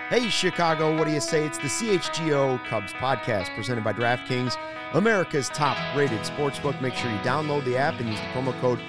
Hey, Chicago, what do you say? It's the CHGO Cubs podcast presented by DraftKings, America's top-rated sportsbook. Make sure you download the app and use the promo code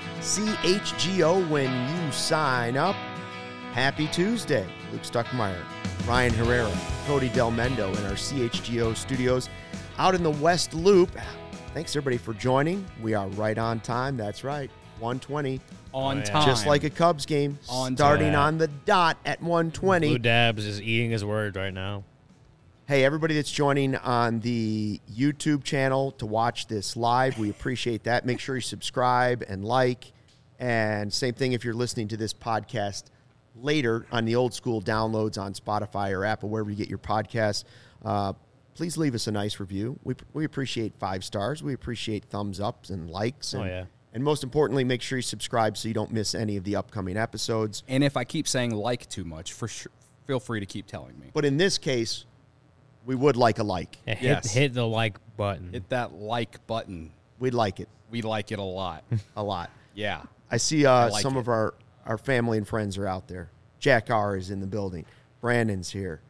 CHGO when you sign up. Happy Tuesday. Luke Stuckmeyer, Ryan Herrera, Cody Del Mendo in our CHGO studios out in the West Loop. Thanks, everybody, for joining. We are right on time. That's right, 1:20. On time. Just like a Cubs game, starting on the dot at 1:20. Blue Dabs is eating his words right now. Hey, everybody that's joining on the YouTube channel to watch this live, we appreciate that. Make sure you subscribe and like. And same thing if you're listening to this podcast later on the old school downloads on Spotify or Apple, wherever you get your podcasts. Please leave us a nice review. We appreciate 5 stars. We appreciate thumbs ups and likes. And, And most importantly, make sure you subscribe so you don't miss any of the upcoming episodes. And if I keep saying like too much, for sure, feel free to keep telling me. But in this case, we would like a like. Yeah, hit the like button. Hit that like button. We'd like it. We like it a lot. A lot. Yeah. I see some of our family and friends are out there. Jack R. is in the building. Brandon's here.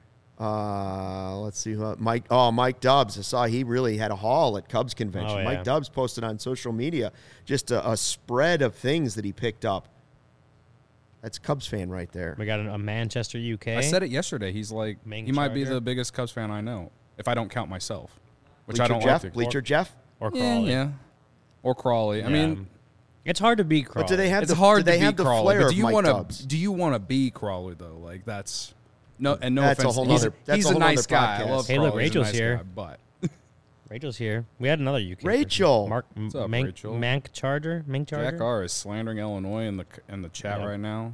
Let's see who Mike. Oh, Mike Dubs. I saw he really had a haul at Cubs convention. Oh, yeah. Mike Dubs posted on social media just a spread of things that he picked up. That's a Cubs fan right there. We got a Manchester, UK. I said it yesterday. He's like, Main he might be charger. the biggest Cubs fan I know, if I don't count myself, which Bleacher I don't Jeff? like to. Bleacher Jeff? Or Yeah, Crawley. yeah. Or Crawley. I mean, it's hard to beat Crawley. But do they have it's the, hard do they to have be the Crawley. flair But of do you Mike want Dubs? to? Do you want to be Crawley though? Like that's no, and no That's a offense. whole He's, nother- that's he's a a whole nice nother guy. I podcast. love Hey, look, Crawley. He's a Rachel's nice here. guy, but Rachel's here. We had another UK. Rachel. Mark What's up, Mank, Rachel? Mank Charger. Mank Charger. Jack R is slandering Illinois in the chat Yeah. right now.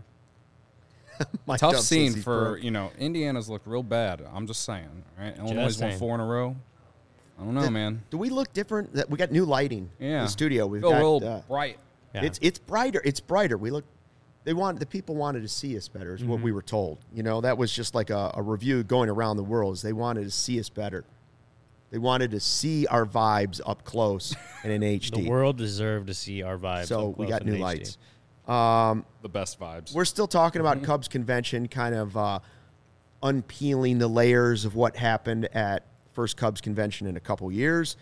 Mike Tough Dubs scene says he's for broke. Indiana's looked real bad. I'm just saying. All right, Illinois won saying. 4 in a row. I don't know, man. Do we look different? That we got new lighting in Yeah, the studio. We've feel got real bright. Yeah. It's brighter. It's brighter. The people wanted to see us better is what we were told. You know, that was just like a review going around the world is they wanted to see us better. They wanted to see our vibes up close and in HD. The world deserved to see our vibes. So up we close got in new HD. lights. The best vibes. We're still talking about Cubs convention, kind of unpeeling the layers of what happened at first Cubs convention in a couple years.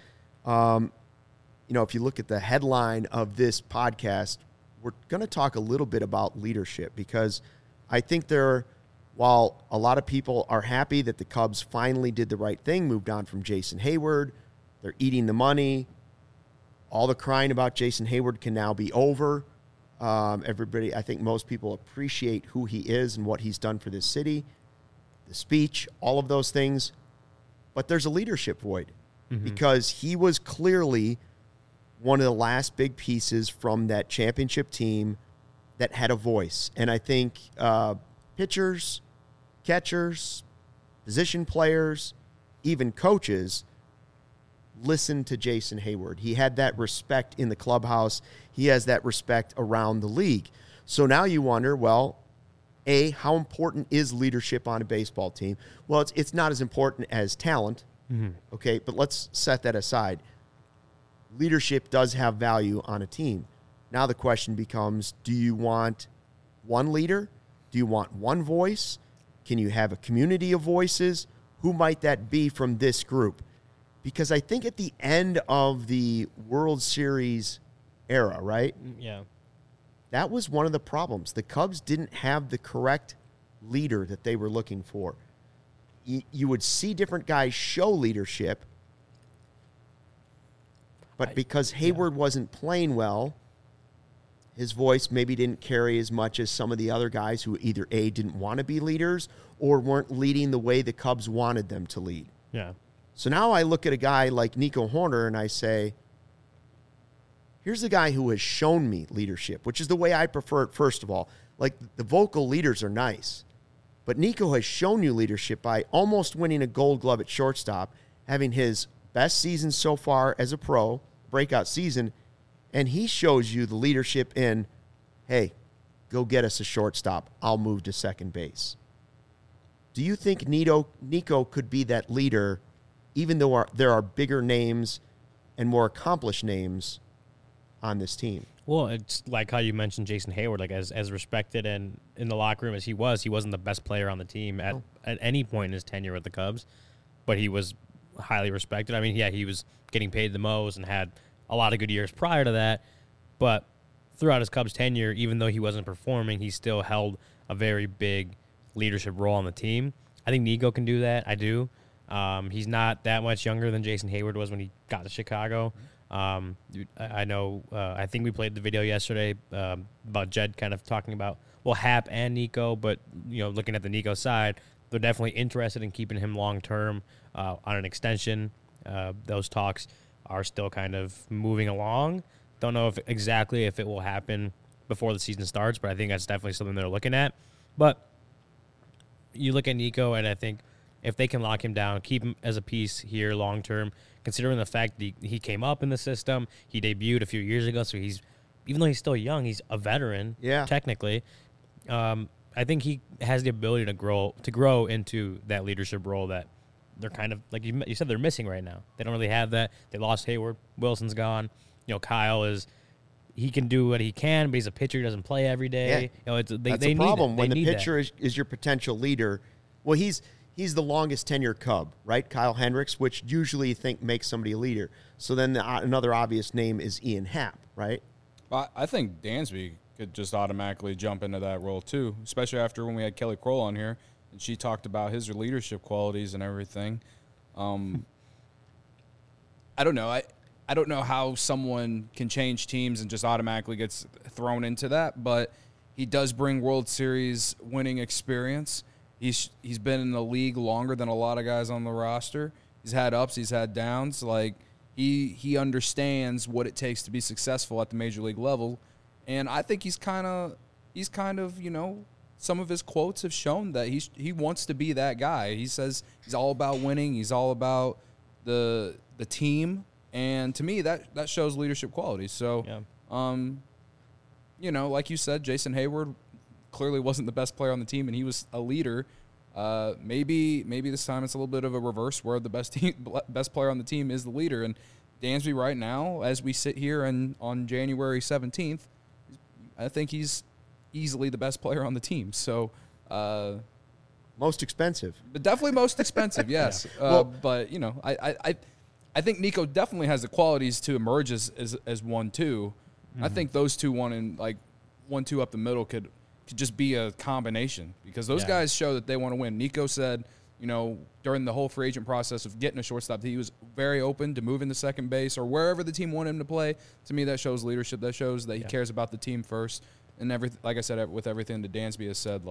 You know, if you look at the headline of this podcast, we're going to talk a little bit about leadership because I think while a lot of people are happy that the Cubs finally did the right thing, moved on from Jason Hayward, they're eating the money. All the crying about Jason Hayward can now be over. Everybody, I think most people appreciate who he is and what he's done for this city, the speech, all of those things. But there's a leadership void because he was clearly one of the last big pieces from that championship team that had a voice. And I think pitchers, catchers, position players, even coaches listened to Jason Hayward. He had that respect in the clubhouse. He has that respect around the league. So now you wonder, well, A, how important is leadership on a baseball team? Well, it's not as important as talent, okay, but let's set that aside. Leadership does have value on a team. Now the question becomes, do you want one leader? Do you want one voice? Can you have a community of voices? Who might that be from this group? Because I think at the end of the World Series era, right? Yeah. That was one of the problems. The Cubs didn't have the correct leader that they were looking for. You would see different guys show leadership, but because Hayward wasn't playing well, his voice maybe didn't carry as much as some of the other guys who either A, didn't want to be leaders or weren't leading the way the Cubs wanted them to lead. Yeah. So now I look at a guy like Nico Horner and I say, here's a guy who has shown me leadership, which is the way I prefer it, first of all. Like, the vocal leaders are nice, but Nico has shown you leadership by almost winning a Gold Glove at shortstop, having his best season so far as a pro, breakout season, and he shows you the leadership in, hey, go get us a shortstop. I'll move to second base. Do you think Nico could be that leader, even though there are bigger names and more accomplished names on this team? Well, it's like how you mentioned Jason Hayward, like as respected and in the locker room as he wasn't the best player on the team at any point in his tenure with the Cubs, but he was highly respected. I mean, yeah, he was getting paid the most and had a lot of good years prior to that, but throughout his Cubs tenure, even though he wasn't performing, he still held a very big leadership role on the team. I think Nico can do that. I do. He's not that much younger than Jason Hayward was when he got to Chicago. I know. I think we played the video yesterday about Jed kind of talking about Hap and Nico, but looking at the Nico side, they're definitely interested in keeping him long term on an extension. Those talks are still kind of moving along. Don't know if it will happen before the season starts, but I think that's definitely something they're looking at. But you look at Nico, and I think if they can lock him down, keep him as a piece here long term, considering the fact that he came up in the system, he debuted a few years ago, so even though he's still young, he's a veteran, technically. I think he has the ability to grow into that leadership role that they're kind of, like you said, they're missing right now. They don't really have that. They lost Hayward. Wilson's gone. Kyle he can do what he can, but he's a pitcher who doesn't play every day. Yeah. That's the problem. When the pitcher is your potential leader, well, he's the longest tenured Cub, right? Kyle Hendricks, which usually you think makes somebody a leader. So then another obvious name is Ian Happ, right? Well, I think Dansby could just automatically jump into that role too, especially after when we had Kelly Kroll on here and she talked about his leadership qualities and everything. I don't know. I don't know how someone can change teams and just automatically gets thrown into that, but he does bring World Series winning experience. He's been in the league longer than a lot of guys on the roster. He's had ups, he's had downs. Like he understands what it takes to be successful at the major league level, and I think he's kind of some of his quotes have shown that he wants to be that guy. He says he's all about winning. He's all about the team. And to me, that shows leadership qualities. So, like you said, Jason Hayward clearly wasn't the best player on the team, and he was a leader. Maybe this time it's a little bit of a reverse where the best player on the team is the leader. And Dansby right now, as we sit here on January 17th, I think he's easily the best player on the team. So, most expensive. But definitely most expensive, yes. But I think Nico definitely has the qualities to emerge as 1-2. Mm-hmm. I think those two, 1-2 up the middle could just be a combination because those guys show that they want to win. Nico said, during the whole free agent process of getting a shortstop, that he was very open to moving to second base or wherever the team wanted him to play. To me, that shows leadership. That shows that he cares about the team first. And like I said, with everything that Dansby has said,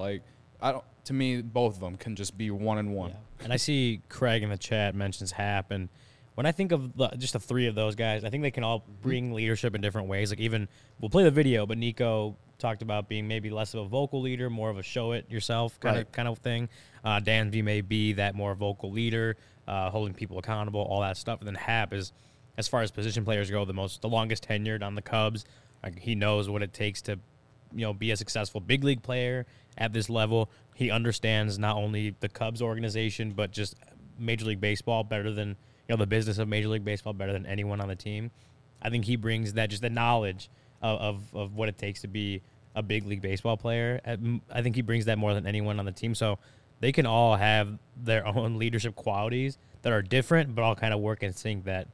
to me, both of them can just be 1-1. Yeah. And I see Craig in the chat mentions Happ, and when I think of just the three of those guys, I think they can all bring leadership in different ways. Like even, we'll play the video, but Nico talked about being maybe less of a vocal leader, more of a show-it-yourself kind of thing. Dansby may be that more vocal leader, holding people accountable, all that stuff. And then Happ is, as far as position players go, the longest tenured on the Cubs. Like, he knows what it takes to be a successful big league player at this level. He understands not only the Cubs organization, but just Major League Baseball better than the business of Major League Baseball better than anyone on the team. I think he brings that, just the knowledge of what it takes to be a big league baseball player. I think he brings that more than anyone on the team. So they can all have their own leadership qualities that are different, but all kind of work in sync. That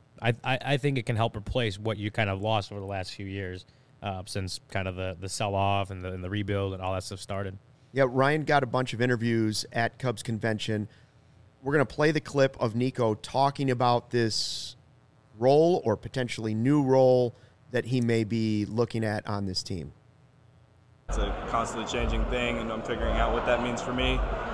I think it can help replace what you kind of lost over the last few years since kind of the sell-off and the rebuild and all that stuff started. Yeah, Ryan got a bunch of interviews at Cubs Convention. We're going to play the clip of Nico talking about this role or potentially new role that he may be looking at on this team. It's a constantly changing thing, and I'm figuring out what that means for me.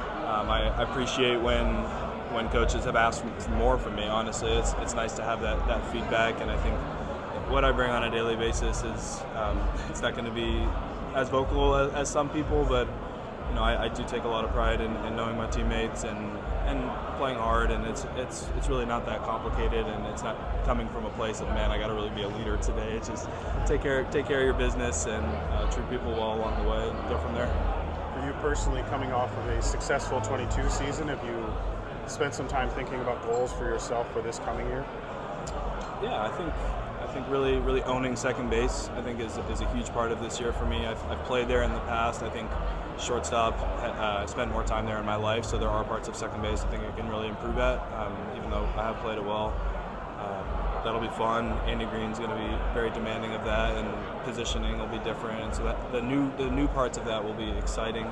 I appreciate when coaches have asked more from me, honestly. It's nice to have that feedback, and I think what I bring on a daily basis is it's not going to be as vocal as some people, but I do take a lot of pride in knowing my teammates and playing hard, and it's really not that complicated, and it's not coming from a place of, man, I got to really be a leader today. It's just take care of your business and treat people well along the way and go from there. For you personally, coming off of a successful 22 season, have you spent some time thinking about goals for yourself for this coming year? Yeah, I think think really owning second base, I think, is a huge part of this year for me. I've played there in the past. I think shortstop, I spent more time there in my life, so there are parts of second base I think I can really improve at, even though I have played it well. That'll be fun. Andy Green's going to be very demanding of that, and positioning will be different. And so that the new parts of that will be exciting.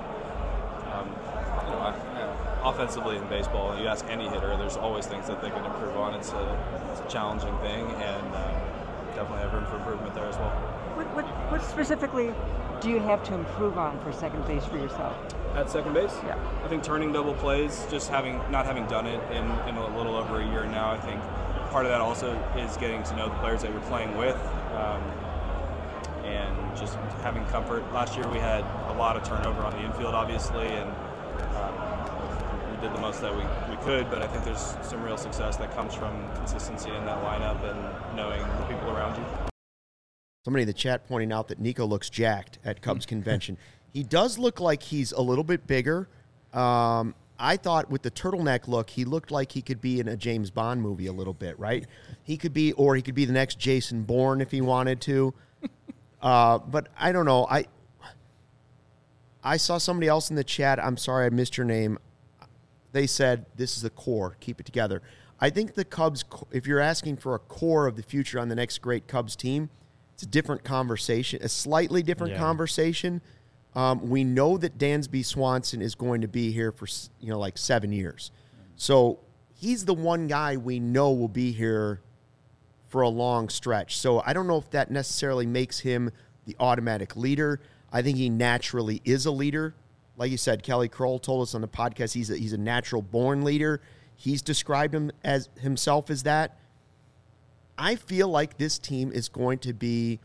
Offensively in baseball, you ask any hitter, there's always things that they can improve on. It's a challenging thing, and definitely have room for improvement there as well. What specifically do you have to improve on for second base for yourself? At second base? Yeah. I think turning double plays, just not having done it in a little over a year now, I think part of that also is getting to know the players that you're playing with, and just having comfort. Last year we had a lot of turnover on the infield, obviously, and we did the most that we could, but I think there's some real success that comes from consistency in that lineup and knowing the people around you. Somebody in the chat pointing out that Nico looks jacked at Cubs convention. He does look like he's a little bit bigger. I thought with the turtleneck look, he looked like he could be in a James Bond movie a little bit, right? He could be the next Jason Bourne if he wanted to. But I don't know. I saw somebody else in the chat. I'm sorry I missed your name. They said this is the core. Keep it together. I think the Cubs, if you're asking for a core of the future on the next great Cubs team, it's a different conversation, a slightly different conversation. We know that Dansby Swanson is going to be here for, like 7 years. So he's the one guy we know will be here for a long stretch. So I don't know if that necessarily makes him the automatic leader. I think he naturally is a leader. Like you said, Kelly Kroll told us on the podcast he's a natural-born leader. He's described himself as that. I feel like this team is going to be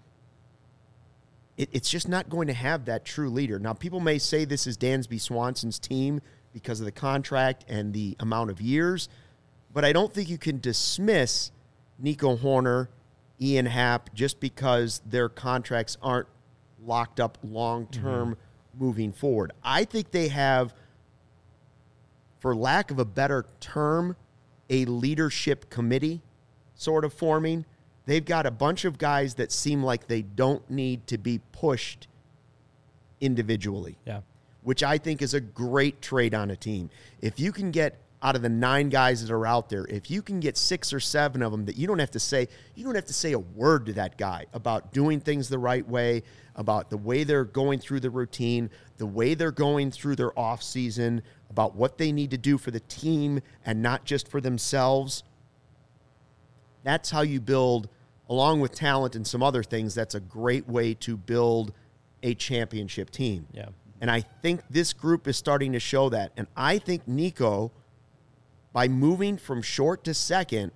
it's just not going to have that true leader. Now, people may say this is Dansby Swanson's team because of the contract and the amount of years, but I don't think you can dismiss Nico Hoerner, Ian Happ, just because their contracts aren't locked up long-term moving forward. I think they have, for lack of a better term, a leadership committee sort of forming. They've got a bunch of guys that seem like they don't need to be pushed individually, which I think is a great trade on a team. If you can get out of the 9 guys that are out there, if you can get 6 or 7 of them that you don't have to say a word to that guy about doing things the right way, about the way they're going through the routine, the way they're going through their off season, about what they need to do for the team and not just for themselves. That's how you build, along with talent and some other things, that's a great way to build a championship team. Yeah. And I think this group is starting to show that. And I think Nico, by moving from short to second,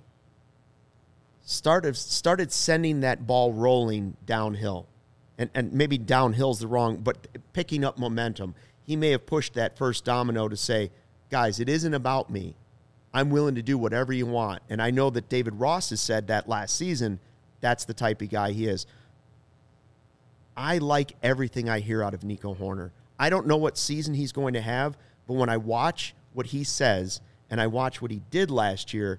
started sending that ball rolling downhill. And maybe downhill's the wrong, but picking up momentum. He may have pushed that first domino to say, guys, it isn't about me. I'm willing to do whatever you want. And I know that David Ross has said that last season. That's the type of guy he is. I like everything I hear out of Nico Hoerner. I don't know what season he's going to have, but when I watch what he says and I watch what he did last year,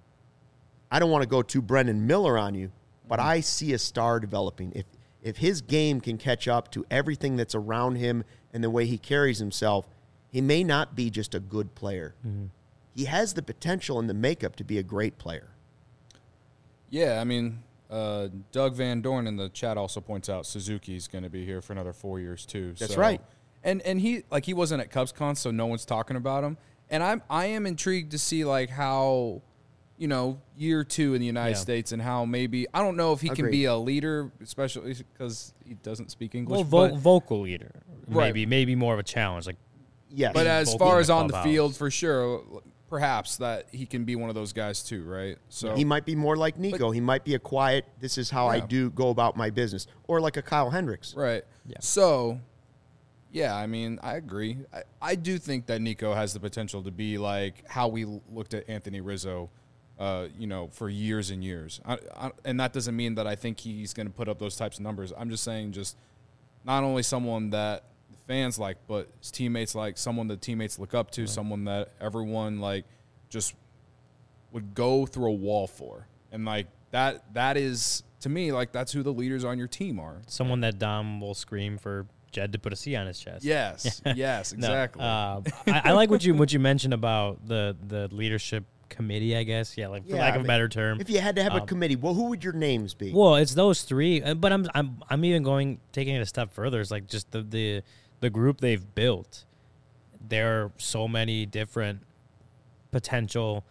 I don't want to go too Brendan Miller on you, but I see a star developing. If his game can catch up to everything that's around him and the way he carries himself, he may not be just a good player. Mm-hmm. He has the potential and the makeup to be a great player. Yeah, I mean, Doug Van Dorn in the chat also points out Suzuki's going to be here for another 4 years too. That's right. And he wasn't at CubsCon, so no one's talking about him. And I am intrigued to see like how, year 2 in the United States and how maybe I don't know if he can be a leader, especially because he doesn't speak English. Well, vocal leader, maybe more of a challenge. Like, yes. But as far as on the field, for sure. Perhaps that he can be one of those guys too, right? So he might be more like Nico. He might be a quiet, this is how I do go about my business. Or like a Kyle Hendricks. Right. Yeah. So, I mean, I agree. I do think that Nico has the potential to be like how we looked at Anthony Rizzo, for years and years. And that doesn't mean that I think he's going to put up those types of numbers. I'm just saying just not only someone that fans like, but his teammates like, someone that teammates look up to, someone that everyone like just would go through a wall for. And like that is to me, like, that's who the leaders on your team are. Someone that Dom will scream for Jed to put a C on his chest. Yes, yes, exactly. No, I like what you mentioned about the leadership committee, I guess. Yeah, like for lack of a better term. If you had to have a committee, well, who would your names be? Well, it's those three, but I'm even taking it a step further. It's like just the group they've built. There are so many different potential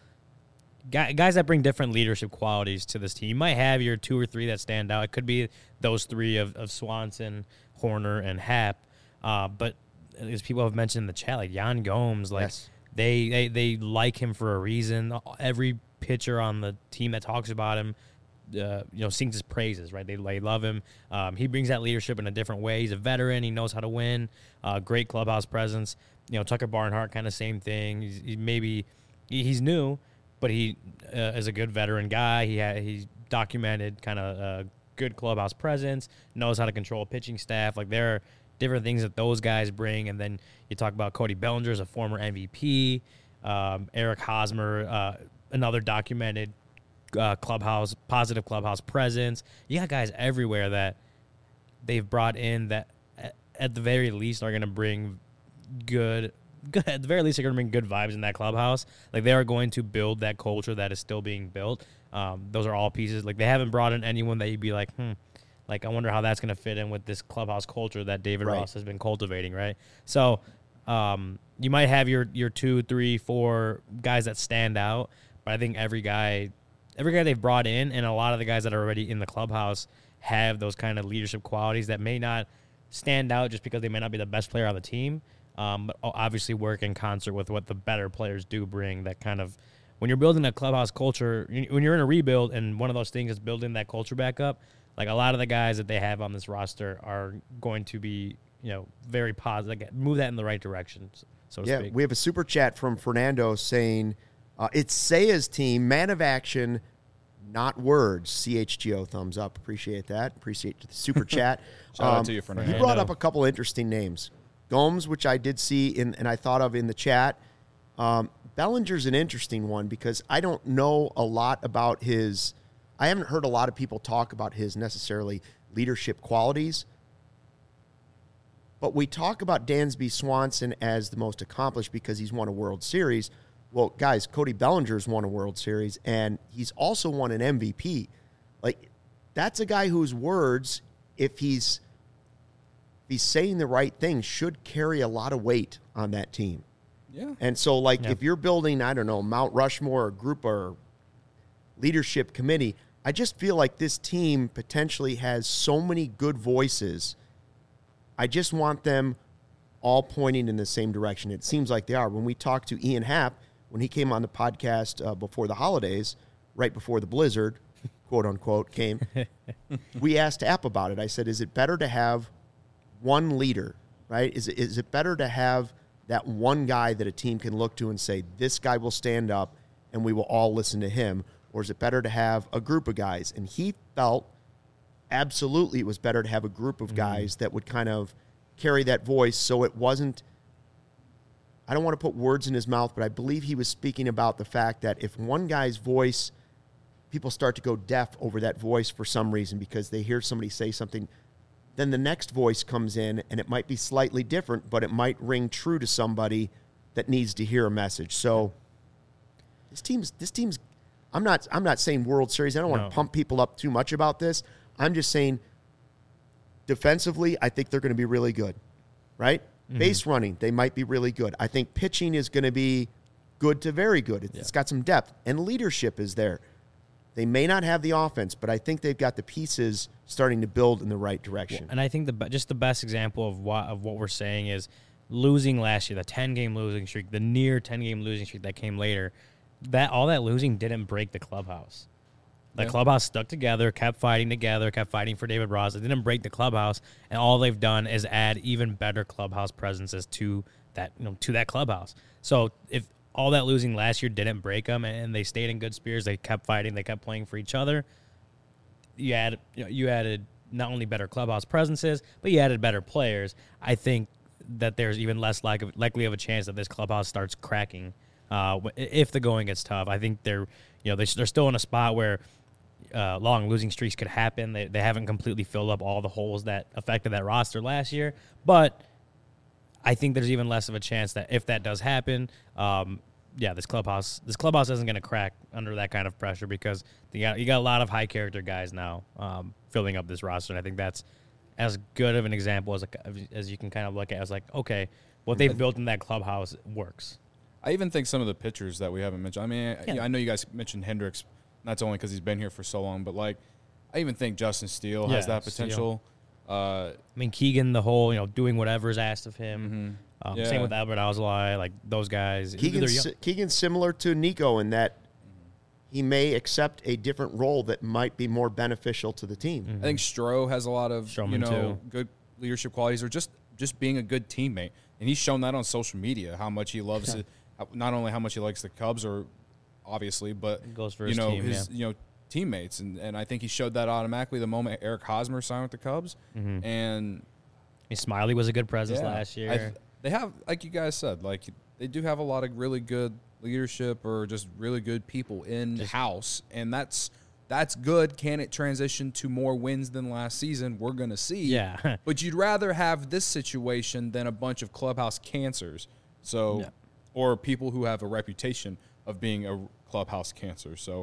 guys that bring different leadership qualities to this team. You might have your 2 or 3 that stand out. It could be those 3 of Swanson, Horner, and Happ. But as people have mentioned in the chat, like Jan Gomes, like Yes. they like him for a reason. Every pitcher on the team that talks about him, sings his praises, right? They love him. He brings that leadership in a different way. He's a veteran. He knows how to win. Great clubhouse presence. Tucker Barnhart, kind of same thing. He's new, but he is a good veteran guy. He's documented kind of a good clubhouse presence, knows how to control a pitching staff. Like, there are different things that those guys bring. And then you talk about Cody Bellinger as a former MVP, Eric Hosmer, another documented positive clubhouse presence. You got guys everywhere that they've brought in that at the very least are going to bring good at the very least, they're going to bring good vibes in that clubhouse. Like, they are going to build that culture that is still being built. Those are all pieces. Like, they haven't brought in anyone that you'd be like, like, I wonder how that's going to fit in with this clubhouse culture that David Ross has been cultivating, right? So, you might have your 2, 3, 4 guys that stand out, but I think every guy they've brought in, and a lot of the guys that are already in the clubhouse have those kind of leadership qualities that may not stand out just because they may not be the best player on the team. But obviously work in concert with what the better players do bring. That kind of, when you're building a clubhouse culture, when you're in a rebuild, and one of those things is building that culture back up, like, a lot of the guys that they have on this roster are going to be, very positive, like, move that in the right direction, so to speak. We have a super chat from Fernando saying, it's Saya's team, man of action, not words. CHGO, thumbs up. Appreciate that. Appreciate the super chat. Shout out to you, Fernando. You brought up a couple interesting names. Gomes, which I did see and I thought of in the chat. Bellinger's an interesting one because I don't know a lot about his – I haven't heard a lot of people talk about his necessarily leadership qualities. But we talk about Dansby Swanson as the most accomplished because he's won a World Series. Well, guys, Cody Bellinger's won a World Series, and he's also won an MVP. Like, that's a guy whose words, if he's saying the right thing, should carry a lot of weight on that team. Yeah. And so, like, if you're building, I don't know, Mount Rushmore or group or leadership committee, I just feel like this team potentially has so many good voices. I just want them all pointing in the same direction. It seems like they are. When we talked to Ian Happ, when he came on the podcast before the holidays, right before the blizzard, quote unquote, came, we asked Happ about it. I said, is it better to have one leader, right? Is it better to have that one guy that a team can look to and say, this guy will stand up and we will all listen to him? Or is it better to have a group of guys? And he felt absolutely it was better to have a group of guys that would kind of carry that voice so it wasn't, I don't want to put words in his mouth, but I believe he was speaking about the fact that if one guy's voice, people start to go deaf over that voice for some reason because they hear somebody say something, then the next voice comes in and it might be slightly different, but it might ring true to somebody that needs to hear a message. So this team's I'm not saying World Series. I don't want to pump people up too much about this. I'm just saying defensively, I think they're going to be really good, right? Mm-hmm. Base running, they might be really good. I think pitching is going to be good to very good. It's got some depth, and leadership is there. They may not have the offense, but I think they've got the pieces starting to build in the right direction. And I think just the best example of what we're saying is losing last year, the 10-game losing streak, the near 10-game losing streak that came later. All that losing didn't break the clubhouse. The clubhouse stuck together, kept fighting for David Ross. It didn't break the clubhouse, and all they've done is add even better clubhouse presences to that clubhouse. So if all that losing last year didn't break them, and they stayed in good spirits, they kept fighting, they kept playing for each other, you added not only better clubhouse presences, but you added better players. I think that there's even less likely of a chance that this clubhouse starts cracking if the going gets tough. I think they're still in a spot where long losing streaks could happen. They haven't completely filled up all the holes that affected that roster last year. But I think there's even less of a chance that if that does happen, this clubhouse isn't going to crack under that kind of pressure because you got a lot of high character guys now filling up this roster. And I think that's as good of an example as you can kind of look at as like, okay, what they've built in that clubhouse works. I even think some of the pitchers that we haven't mentioned. I mean, Yeah. I know you guys mentioned Hendricks, not only because he's been here for so long, but like I even think Justin Steele has that potential. I mean, Keegan, the whole doing whatever is asked of him. Same with Albert Alzolay, like those guys. Keegan's similar to Nico in that he may accept a different role that might be more beneficial to the team. I think Stroh has a lot of Stroman too. good leadership qualities, or just being a good teammate, and he's shown that on social media how much he loves it. Not only how much he likes the Cubs, or obviously, but goes for his team, his teammates, and I think he showed that automatically the moment Eric Hosmer signed with the Cubs, and Smiley was a good presence last year. They have, like you guys said, like they do have a lot of really good leadership or just really good people in house, and that's good. Can it transition to more wins than last season? We're gonna see. Yeah. But you'd rather have this situation than a bunch of clubhouse cancers. So, or people who have a reputation of being a clubhouse cancer. So,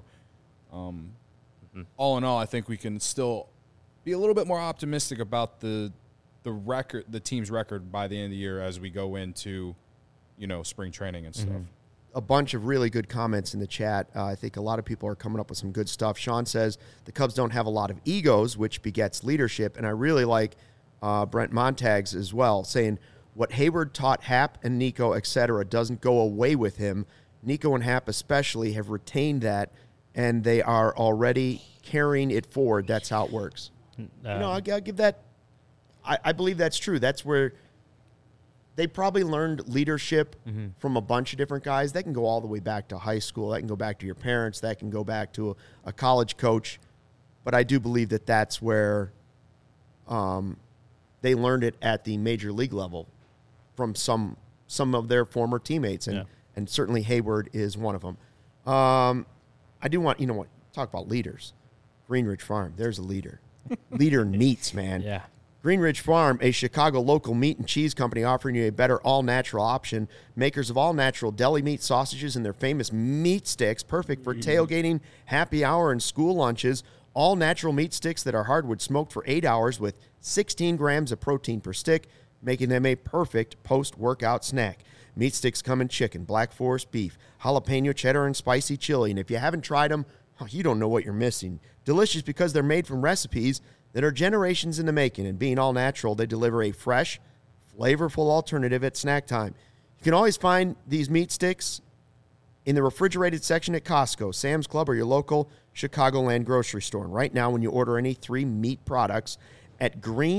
all in all, I think we can still be a little bit more optimistic about the team's record by the end of the year as we go into, spring training and stuff. A bunch of really good comments in the chat. I think a lot of people are coming up with some good stuff. Sean says the Cubs don't have a lot of egos, which begets leadership. And I really like Brent Montags as well, saying what Hayward taught Hap and Nico, et cetera, doesn't go away with him. Nico and Hap especially have retained that, and they are already carrying it forward. That's how it works. I'll give that. I believe that's true. That's where they probably learned leadership from a bunch of different guys. That can go all the way back to high school. That can go back to your parents. That can go back to a college coach. But I do believe that that's where they learned it at the major league level from some of their former teammates. And certainly Hayward is one of them. I do want, talk about leaders. Greenridge Farm, there's a leader. Leader in meats, man. Yeah. Greenridge Farm, a Chicago local meat and cheese company offering you a better all-natural option. Makers of all-natural deli meat sausages and their famous meat sticks, perfect for tailgating, happy hour, and school lunches. All-natural meat sticks that are hardwood smoked for 8 hours with 16 grams of protein per stick, making them a perfect post-workout snack. Meat sticks come in chicken, Black Forest beef, jalapeno cheddar, and spicy chili. And if you haven't tried them, you don't know what you're missing. Delicious because they're made from recipes that are generations in the making, and being all natural, they deliver a fresh, flavorful alternative at snack time. You can always find these meat sticks in the refrigerated section at Costco, Sam's Club, or your local Chicagoland grocery store. And right now, when you order any 3 meat products at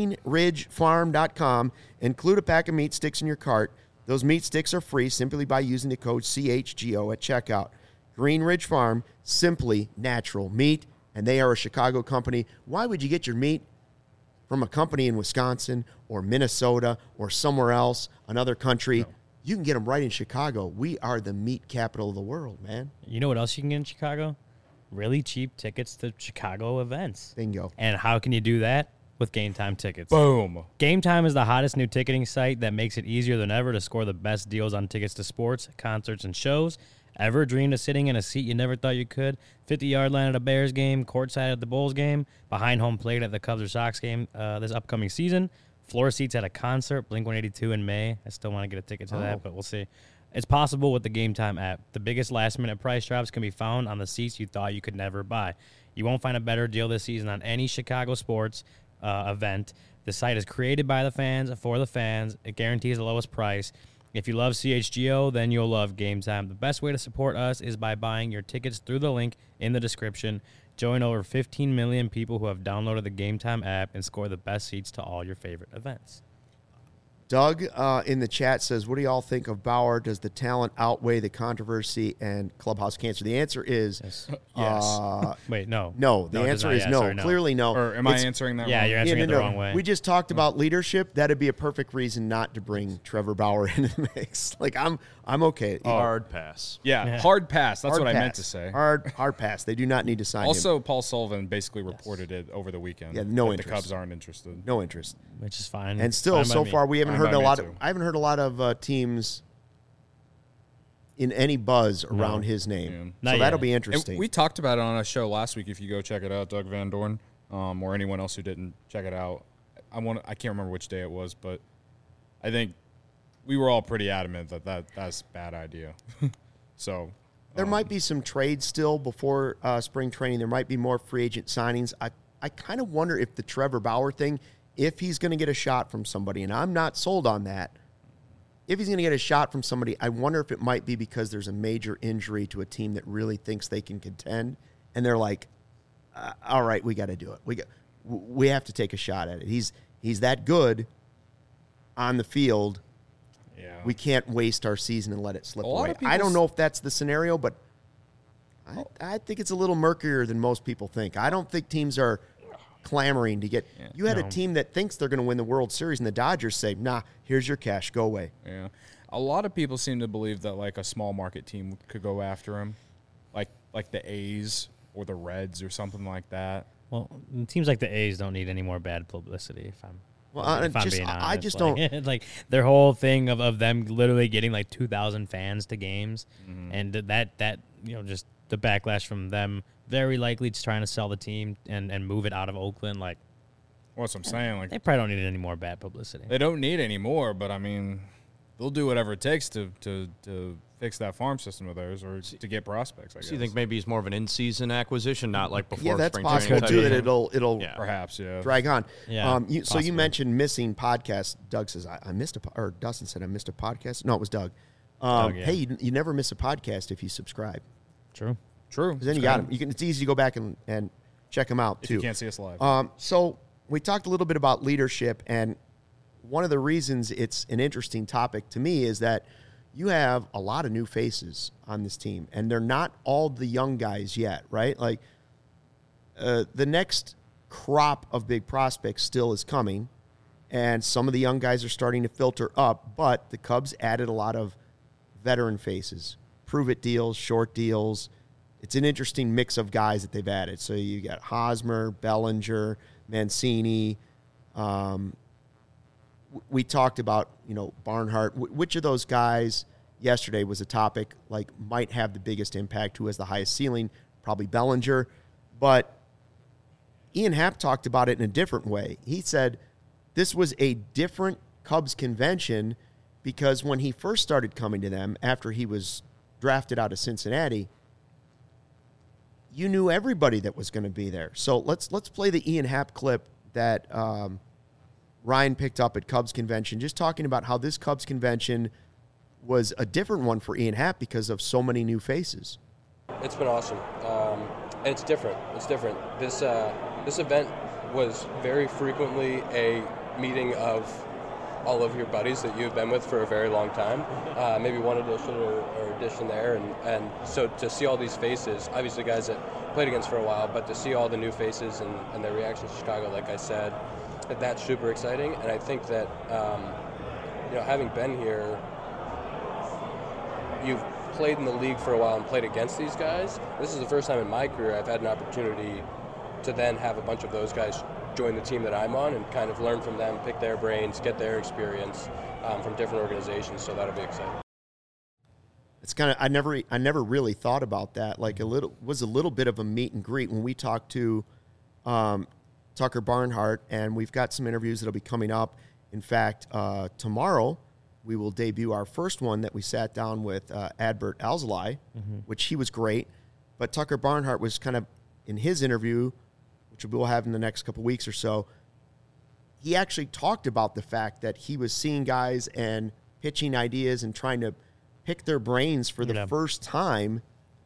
greenridgefarm.com, include a pack of meat sticks in your cart. Those meat sticks are free simply by using the code CHGO at checkout. Greenridge Farm, simply natural meat. And they are a Chicago company. Why would you get your meat from a company in Wisconsin or Minnesota or somewhere else, another country? No. You can get them right in Chicago. We are the meat capital of the world, man. You know what else you can get in Chicago? Really cheap tickets to Chicago events. Bingo. And how can you do that? With Game Time tickets. Boom. Game Time is the hottest new ticketing site that makes it easier than ever to score the best deals on tickets to sports, concerts, and shows. Ever dreamed of sitting in a seat you never thought you could? 50-yard line at a Bears game, courtside at the Bulls game, behind home plate at the Cubs or Sox game this upcoming season, floor seats at a concert, Blink-182 in May. I still want to get a ticket to that, but we'll see. It's possible with the Game Time app. The biggest last-minute price drops can be found on the seats you thought you could never buy. You won't find a better deal this season on any Chicago sports event. The site is created by the fans for the fans. It guarantees the lowest price. If you love CHGO, then you'll love Game Time. The best way to support us is by buying your tickets through the link in the description. Join over 15 million people who have downloaded the Game Time app and score the best seats to all your favorite events. Doug in the chat says, what do y'all think of Bauer? Does the talent outweigh the controversy and clubhouse cancer? The answer is yes. Wait, no. No, the it does answer not. is Yeah, no. sorry, no. Clearly no. Or am I answering that Yeah, wrong? you're answering it the wrong way. We just talked about leadership. That'd be a perfect reason not to bring Trevor Bauer into the mix. Like, I'm okay. Hard pass. Yeah, hard pass. That's Hard what I meant pass. to say. Hard pass. They do not need to sign him. Also, Paul Sullivan basically reported it over the weekend. Yeah, no that interest. The Cubs aren't interested. No interest. Which is fine. And still, Fine by so me. far, we haven't Fine heard by a me, lot. too. I haven't heard a lot of teams in any buzz around his name. Yeah. Not So yet. that'll be And interesting. we talked about it on a show last week. If you go check it out, Doug Van Dorn, or anyone else who didn't check it out, I can't remember which day it was, but I think we were all pretty adamant that's a bad idea. So There might be some trades still before spring training. There might be more free agent signings. I kind of wonder if the Trevor Bauer thing, if he's going to get a shot from somebody, and I'm not sold on that. If he's going to get a shot from somebody, I wonder if it might be because there's a major injury to a team that really thinks they can contend, and they're like, all right, we got to do it. We have to take a shot at it. He's that good on the field. yeah, We can't waste our season and let it slip A lot away. of people I don't know if that's the scenario, but I think it's a little murkier than most people think. I don't think teams are clamoring to get. Yeah. You had a No. team that thinks they're going to win the World Series, and the Dodgers say, nah, here's your cash. Go away. Yeah, a lot of people seem to believe that like a small market team could go after him, like the A's or the Reds or something like that. Well, it seems like the A's don't need any more bad publicity. If I'm being honest, I just like, don't. like their whole thing of them literally getting like 2,000 fans to games, and that just the backlash from them very likely just trying to sell the team and move it out of Oakland. Like What's I'm saying? Like they probably don't need any more bad publicity. they don't need any more, but I mean, they'll do whatever it takes to fix that farm system of theirs or to get prospects. I guess. So you think maybe it's more of an in-season acquisition, not like before Yeah, that's spring possible training? too. type That of thing? it'll Yeah. perhaps yeah. drag on. Yeah, So you possibly. mentioned missing podcasts. Doug says I missed or Dustin said I missed a podcast. No, it was Doug. Doug, yeah. Hey, you never miss a podcast if you subscribe. True. True. Because then you got them. It's easy to go back and check them out if too. you can't see us live. So we talked a little bit about leadership, and one of the reasons it's an interesting topic to me is that you have a lot of new faces on this team, and they're not all the young guys yet, right? Like the next crop of big prospects still is coming, and some of the young guys are starting to filter up, but the Cubs added a lot of veteran faces, prove-it deals, short deals. It's an interesting mix of guys that they've added. So you got Hosmer, Bellinger, Mancini. We talked about, Barnhart. Which of those guys yesterday was a topic, like, might have the biggest impact, who has the highest ceiling? Probably Bellinger. But Ian Happ talked about it in a different way. He said this was a different Cubs convention because when he first started coming to them after he was drafted out of Cincinnati, you knew everybody that was going to be there. So let's play the Ian Happ clip that Ryan picked up at Cubs convention, just talking about how this Cubs convention was a different one for Ian Happ because of so many new faces. It's been awesome, and it's different. It's different. This event was very frequently a meeting of all of your buddies that you've been with for a very long time. Maybe one edition or edition there, and so to see all these faces, obviously guys that played against for a while, but to see all the new faces and their reactions to Chicago, like I said, that's super exciting. And I think that having been here, you've played in the league for a while and played against these guys. This is the first time in my career I've had an opportunity to then have a bunch of those guys join the team that I'm on and kind of learn from them, pick their brains, get their experience from different organizations. So that'll be exciting. It's kind of I never really thought about that. Like a little bit of a meet and greet when we talked to Tucker Barnhart, and we've got some interviews that'll be coming up. In fact, tomorrow we will debut our first one that we sat down with Adbert Alzolay, which he was great. But Tucker Barnhart was kind of in his interview, which we'll have in the next couple weeks or so. He actually talked about the fact that he was seeing guys and pitching ideas and trying to pick their brains for the first time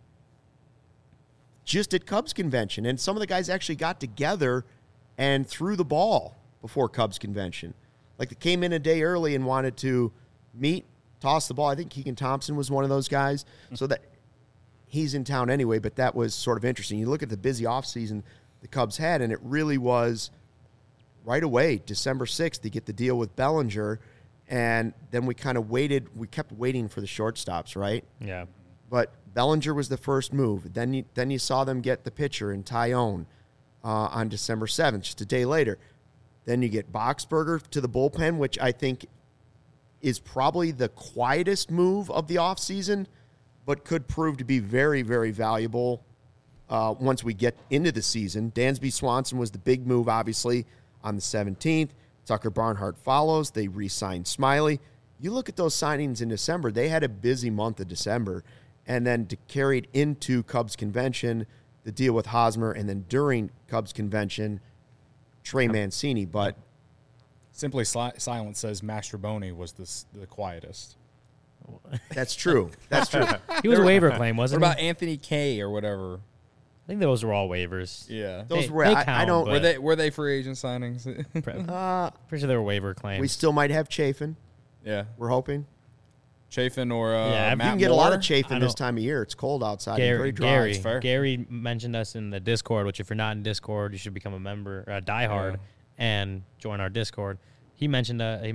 just at Cubs convention. And some of the guys actually got together and threw the ball before Cubs convention. Like they came in a day early and wanted to meet, toss the ball. I think Keegan Thompson was one of those guys. So that he's in town anyway, but that was sort of interesting. You look at the busy offseason the Cubs had, and it really was right away, December 6th, to get the deal with Bellinger. And then we kind of waited. We kept waiting for the shortstops, right? Yeah. But Bellinger was the first move. Then you saw them get the pitcher in Tyone on December 7th, just a day later. Then you get Boxberger to the bullpen, which I think is probably the quietest move of the offseason, but could prove to be very, very valuable once we get into the season. Dansby Swanson was the big move, obviously, on the 17th. Tucker Barnhart follows. They re-signed Smiley. You look at those signings in December, they had a busy month of December. And then to carry it into Cubs convention, the deal with Hosmer, and then during Cubs convention, Trey Mancini. But Simply Silent says Mastroboni was the quietest. that's true. That's true. He was a waiver claim, What wasn't he? about Anthony K or whatever? I think those were all waivers. Yeah. Those They- were they I count, don't. but- Were they free agent signings? Pretty sure they were waiver claims. We still might have Chafin. Yeah. We're hoping. Chafin or Yeah, You Matt can get a lot of Moore? Chafin I this don't- time of year. It's cold outside. and very dry. Gary, It's fair. Gary mentioned us in the Discord, which if you're not in Discord, you should become a member, diehard, Yeah. and join our Discord. He mentioned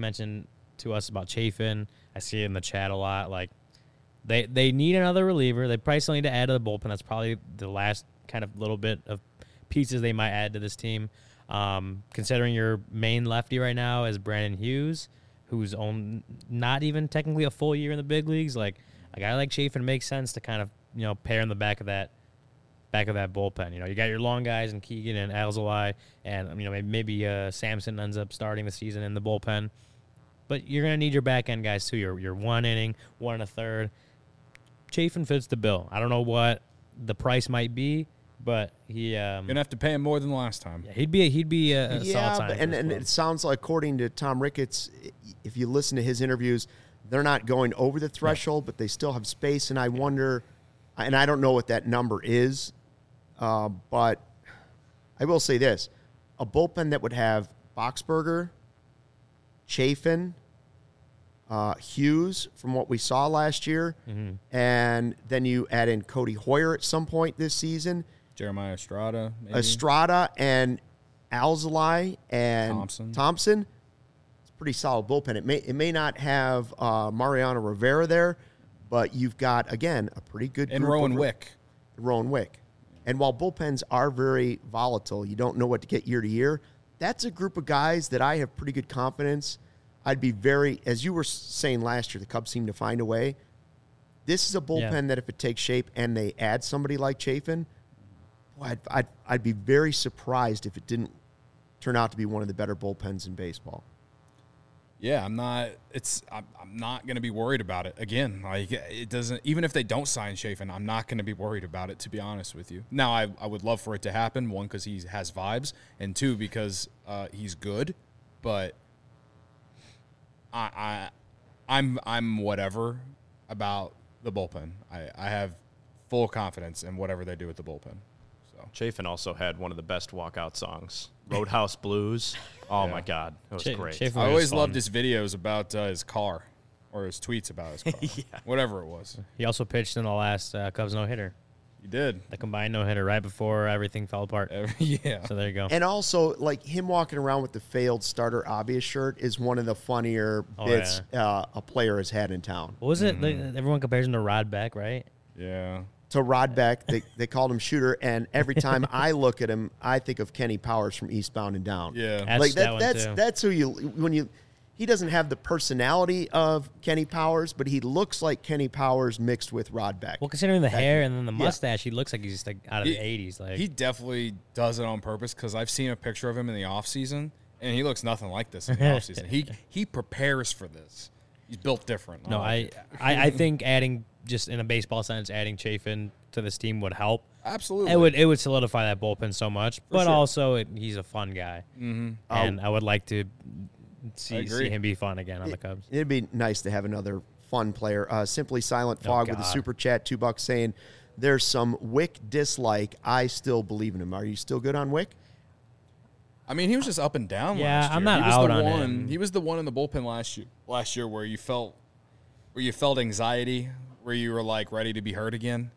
to us about Chafin. I see it in the chat a lot. Like they need another reliever. They probably still need to add to the bullpen. That's probably the last kind of little bit of pieces they might add to this team. Considering your main lefty right now is Brandon Hughes, who's not even technically a full year in the big leagues. Like a guy like Chafin makes sense to kind of pair in the back of that bullpen. You got your long guys and Keegan and Alzolay, and maybe Samson ends up starting the season in the bullpen. But you're gonna need your back end guys too. Your 1 inning, 1 1/3. Chafin fits the bill. I don't know what the price might be, but he You're gonna have to pay him more than last time. yeah, he'd be a solid Yeah, signing. and for this it club. sounds like, according to Tom Ricketts, if you listen to his interviews, they're not going over the threshold, but they still have space. And I wonder, and I don't know what that number is, but I will say this: a bullpen that would have Boxberger, Chafin, Hughes, from what we saw last year, and then you add in Cody Hoyer at some point this season. Jeremiah Estrada, maybe. Estrada and Alzolay and Thompson. It's a pretty solid bullpen. It may not have Mariano Rivera there, but you've got, again, a pretty good And group Rowan of- Wick. Rowan Wick. And while bullpens are very volatile, you don't know what to get year to year, that's a group of guys that I have pretty good confidence. I'd be very, as you were saying last year, the Cubs seem to find a way. This is a bullpen that if it takes shape and they add somebody like Chafin, boy, I'd be very surprised if it didn't turn out to be one of the better bullpens in baseball. Yeah, I'm not going to be worried about it. Again, like it doesn't, even if they don't sign Chafin, I'm not going to be worried about it, to be honest with you. Now, I would love for it to happen, one, because he has vibes, and two, because he's good, but I'm whatever about the bullpen. I have full confidence in whatever they do with the bullpen. So Chafin also had one of the best walkout songs, Roadhouse Blues. Oh, Yeah. my God. It was great. Chafin I was always fun. loved his videos about his car, or his tweets about his car, whatever it was. He also pitched in the last Cubs no-hitter, He did. the combined no-hitter, right before everything fell apart. Yeah. So there you go. And also, like, him walking around with the failed starter obvious shirt is one of the funnier bits a player has had in town. What was it? Everyone compares him to Rod Beck, right? Yeah. To Rod Beck, they called him Shooter, and every time I look at him, I think of Kenny Powers from Eastbound and Down. Yeah. That's like that one, that's too. that's who he doesn't have the personality of Kenny Powers, but he looks like Kenny Powers mixed with Rod Beck. Well, considering the hair and then the yeah. mustache, he looks like he's just like out of the 80s. Like He definitely does it on purpose, because I've seen a picture of him in the offseason, and he looks nothing like this in the offseason. He prepares for this. He's built different. No, like I it. think adding, just in a baseball sense, adding Chafin to this team would help. Absolutely. It would solidify that bullpen so much, but sure. also he's a fun guy, and I would like to see agree. him be fun again on the Cubs. It'd be nice to have another fun player. Simply Silent Fog with a God. super chat, $2 saying there's some Wick dislike. I still believe in him. Are you still good on Wick? I mean, he was just up and down Yeah, last year. I'm not he was out the on one. him. He was the one in the bullpen last year where you felt anxiety, where you were like ready to be hurt again.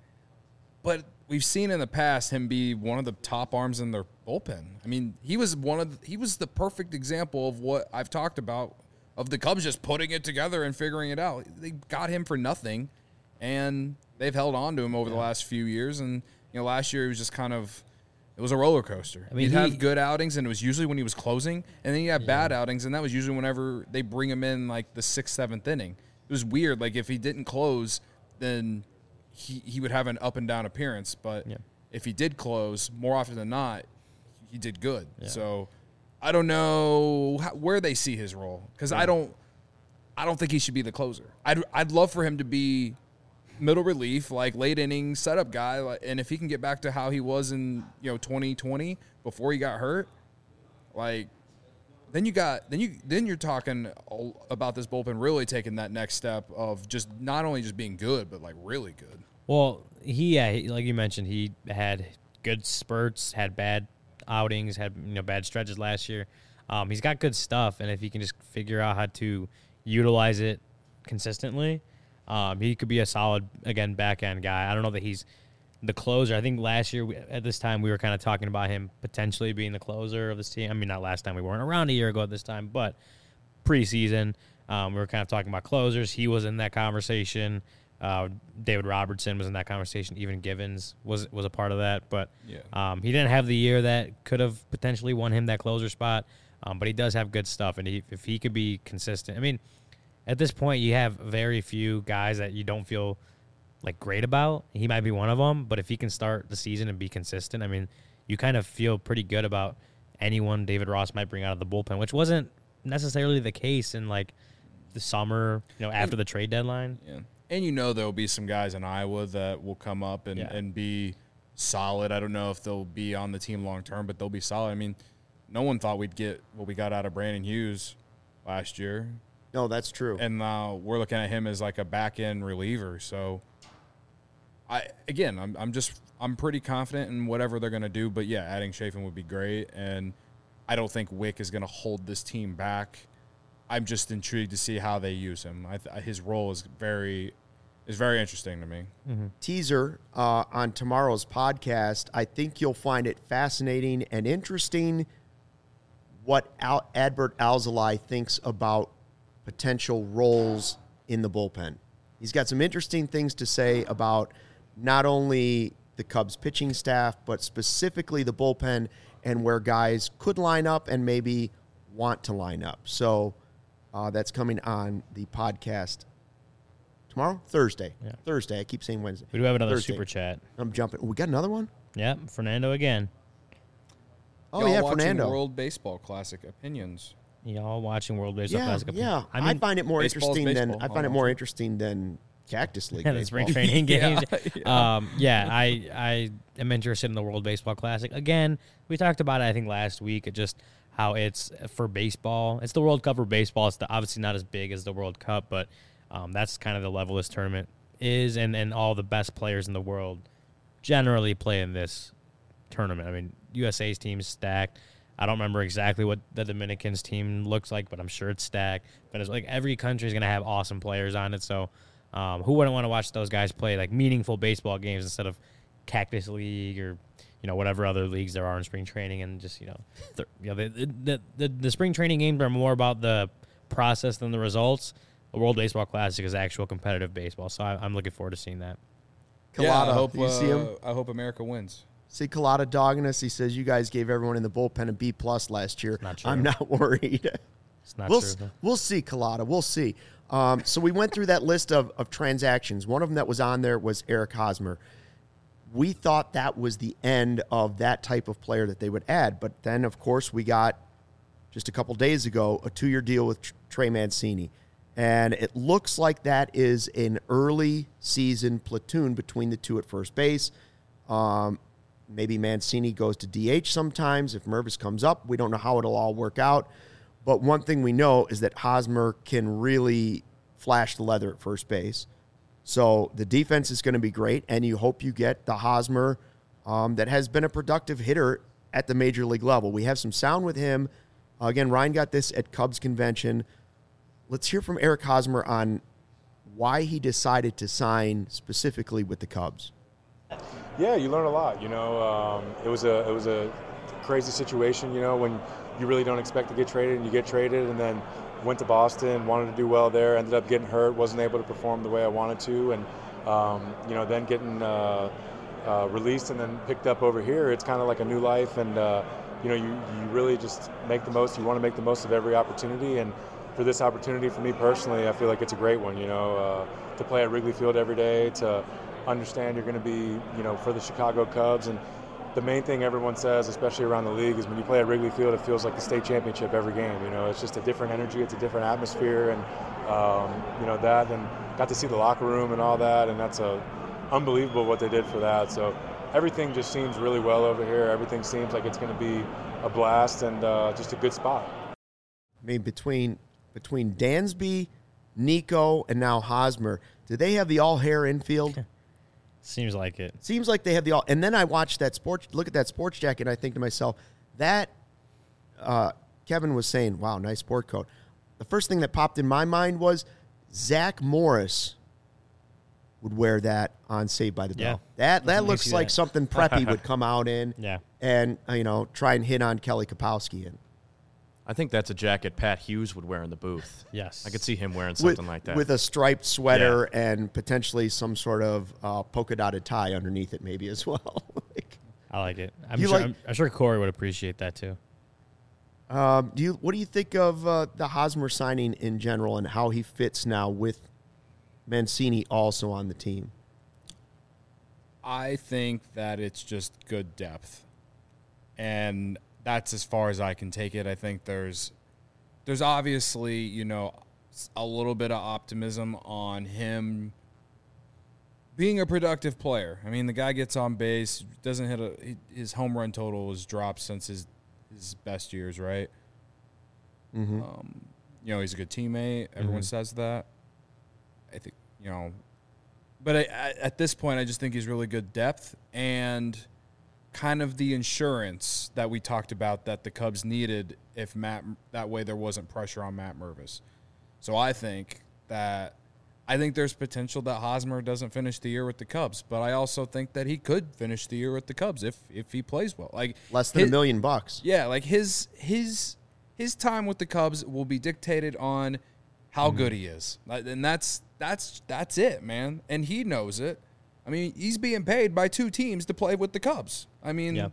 But we've seen in the past him be one of the top arms in their bullpen. I mean, he was the perfect example of what I've talked about of the Cubs just putting it together and figuring it out. They got him for nothing, and they've held on to him over the last few years. And last year it was just kind of. It was a roller coaster. I mean, he'd have good outings, and it was usually when he was closing, and then he had bad outings, and that was usually whenever they bring him in like the 6th, 7th inning. It was weird. Like if he didn't close, then he would have an up and down appearance. But if he did close, more often than not, he did good. Yeah. So I don't know where they see his role because I don't think he should be the closer. I'd love for him to be middle relief, like late inning setup guy, and if he can get back to how he was in 2020 before he got hurt, like then you're talking about this bullpen really taking that next step of just not only just being good but like really good. Well, he like you mentioned, he had good spurts, had bad outings, had bad stretches last year. He's got good stuff, and if he can just figure out how to utilize it consistently. He could be a solid, again, back-end guy. I don't know that he's the closer. I think last year at this time we were kind of talking about him potentially being the closer of this team. I mean, not last time. We weren't around a year ago at this time, but preseason we were kind of talking about closers. He was in that conversation. David Robertson was in that conversation. Even Givens was a part of that. But he didn't have the year that could have potentially won him that closer spot, but he does have good stuff. And if he could be consistent, I mean, at this point, you have very few guys that you don't feel like great about. He might be one of them, but if he can start the season and be consistent, I mean, you kind of feel pretty good about anyone David Ross might bring out of the bullpen, which wasn't necessarily the case in like the summer, after the trade deadline. Yeah, and there'll be some guys in Iowa that will come up and be solid. I don't know if they'll be on the team long term, but they'll be solid. I mean, no one thought we'd get what we got out of Brandon Hughes last year. No, that's true. And we're looking at him as like a back-end reliever. So, I'm pretty confident in whatever they're going to do. But, yeah, adding Chafin would be great. And I don't think Wick is going to hold this team back. I'm just intrigued to see how they use him. His role is very interesting to me. Mm-hmm. Teaser on tomorrow's podcast, I think you'll find it fascinating and interesting what Adbert Alzolay thinks about potential roles in the bullpen. He's got some interesting things to say about not only the Cubs pitching staff, but specifically the bullpen and where guys could line up and maybe want to line up. So that's coming on the podcast tomorrow? Thursday. Yeah. Thursday. I keep saying Wednesday. We do have another Thursday. super chat. I'm jumping. We got another one? Yeah, Fernando again. Oh, Y'all yeah, watching Fernando. World Baseball Classic opinions. Y'all watching World Baseball Classic? Yeah, I mean, I find it more baseball's interesting than baseball, I find it more interesting than Cactus League. the baseball. spring training games. Yeah. I am interested in the World Baseball Classic. Again, we talked about it, I think, last week, just how it's for baseball. It's the World Cup for baseball. It's obviously not as big as the World Cup, but that's kind of the level this tournament is, and all the best players in the world generally play in this tournament. I mean, USA's team is stacked. I don't remember exactly what the Dominicans team looks like, but I'm sure it's stacked. But it's like every country is going to have awesome players on it. So who wouldn't want to watch those guys play like meaningful baseball games instead of Cactus League or whatever other leagues there are in spring training? And just the spring training games are more about the process than the results. The World Baseball Classic is actual competitive baseball, so I'm looking forward to seeing that. Collada, you see him? I hope America wins. See Collada dogging us. He says you guys gave everyone in the bullpen a B+ last year. Not true. I'm not worried. It's not true. We'll see, Collada. We'll see. So we went through that list of transactions. One of them that was on there was Eric Hosmer. We thought that was the end of that type of player that they would add. But then, of course, we got, just a couple days ago, a 2-year deal with Trey Mancini. And it looks like that is an early season platoon between the two at first base. Maybe Mancini goes to DH sometimes. If Mervis comes up, we don't know how it'll all work out. But one thing we know is that Hosmer can really flash the leather at first base. So the defense is going to be great, and you hope you get the Hosmer that has been a productive hitter at the major league level. We have some sound with him. Again, Ryan got this at Cubs convention. Let's hear from Eric Hosmer on why he decided to sign specifically with the Cubs. Yeah, you learn a lot. It was a crazy situation. When you really don't expect to get traded, and you get traded, and then went to Boston, wanted to do well there, ended up getting hurt, wasn't able to perform the way I wanted to, and then getting released and then picked up over here. It's kind of like a new life, and you really just make the most. You want to make the most of every opportunity, and for this opportunity, for me personally, I feel like it's a great one. To play at Wrigley Field every day, to understand you're going to be, for the Chicago Cubs. And the main thing everyone says, especially around the league, is when you play at Wrigley Field, it feels like the state championship every game. It's just a different energy, it's a different atmosphere, and that, and got to see the locker room and all that, and that's unbelievable what they did for that. So everything just seems really well over here. Everything seems like it's going to be a blast, and just a good spot. I mean, between Dansby, Nico, and now Hosmer, do they have the all-hair infield? Seems like it. Seems like they have the all. And then I watch look at that sports jacket, and I think to myself, that Kevin was saying, wow, nice sport coat. The first thing that popped in my mind was Zach Morris would wear that on Saved by the Bell. That looks like something Preppy would come out in and, try and hit on Kelly Kapowski in. I think that's a jacket Pat Hughes would wear in the booth. Yes. I could see him wearing something like that. With a striped sweater and potentially some sort of polka-dotted tie underneath it maybe as well. I like it. I'm sure Corey would appreciate that too. What do you think of the Hosmer signing in general and how he fits now with Mancini also on the team? I think that it's just good depth. And that's as far as I can take it. I think there's obviously, a little bit of optimism on him being a productive player. I mean, the guy gets on base, doesn't his home run total has dropped since his best years, right? Mm-hmm. He's a good teammate. Everyone says that. I think, but at this point, I just think he's really good depth and kind of the insurance that we talked about that the Cubs needed if that way there wasn't pressure on Matt Mervis. So I think there's potential that Hosmer doesn't finish the year with the Cubs, but I also think that he could finish the year with the Cubs if he plays well. Like less than $1 million. Yeah, like his time with the Cubs will be dictated on how good he is. And that's it, man. And he knows it. I mean, he's being paid by two teams to play with the Cubs. I mean,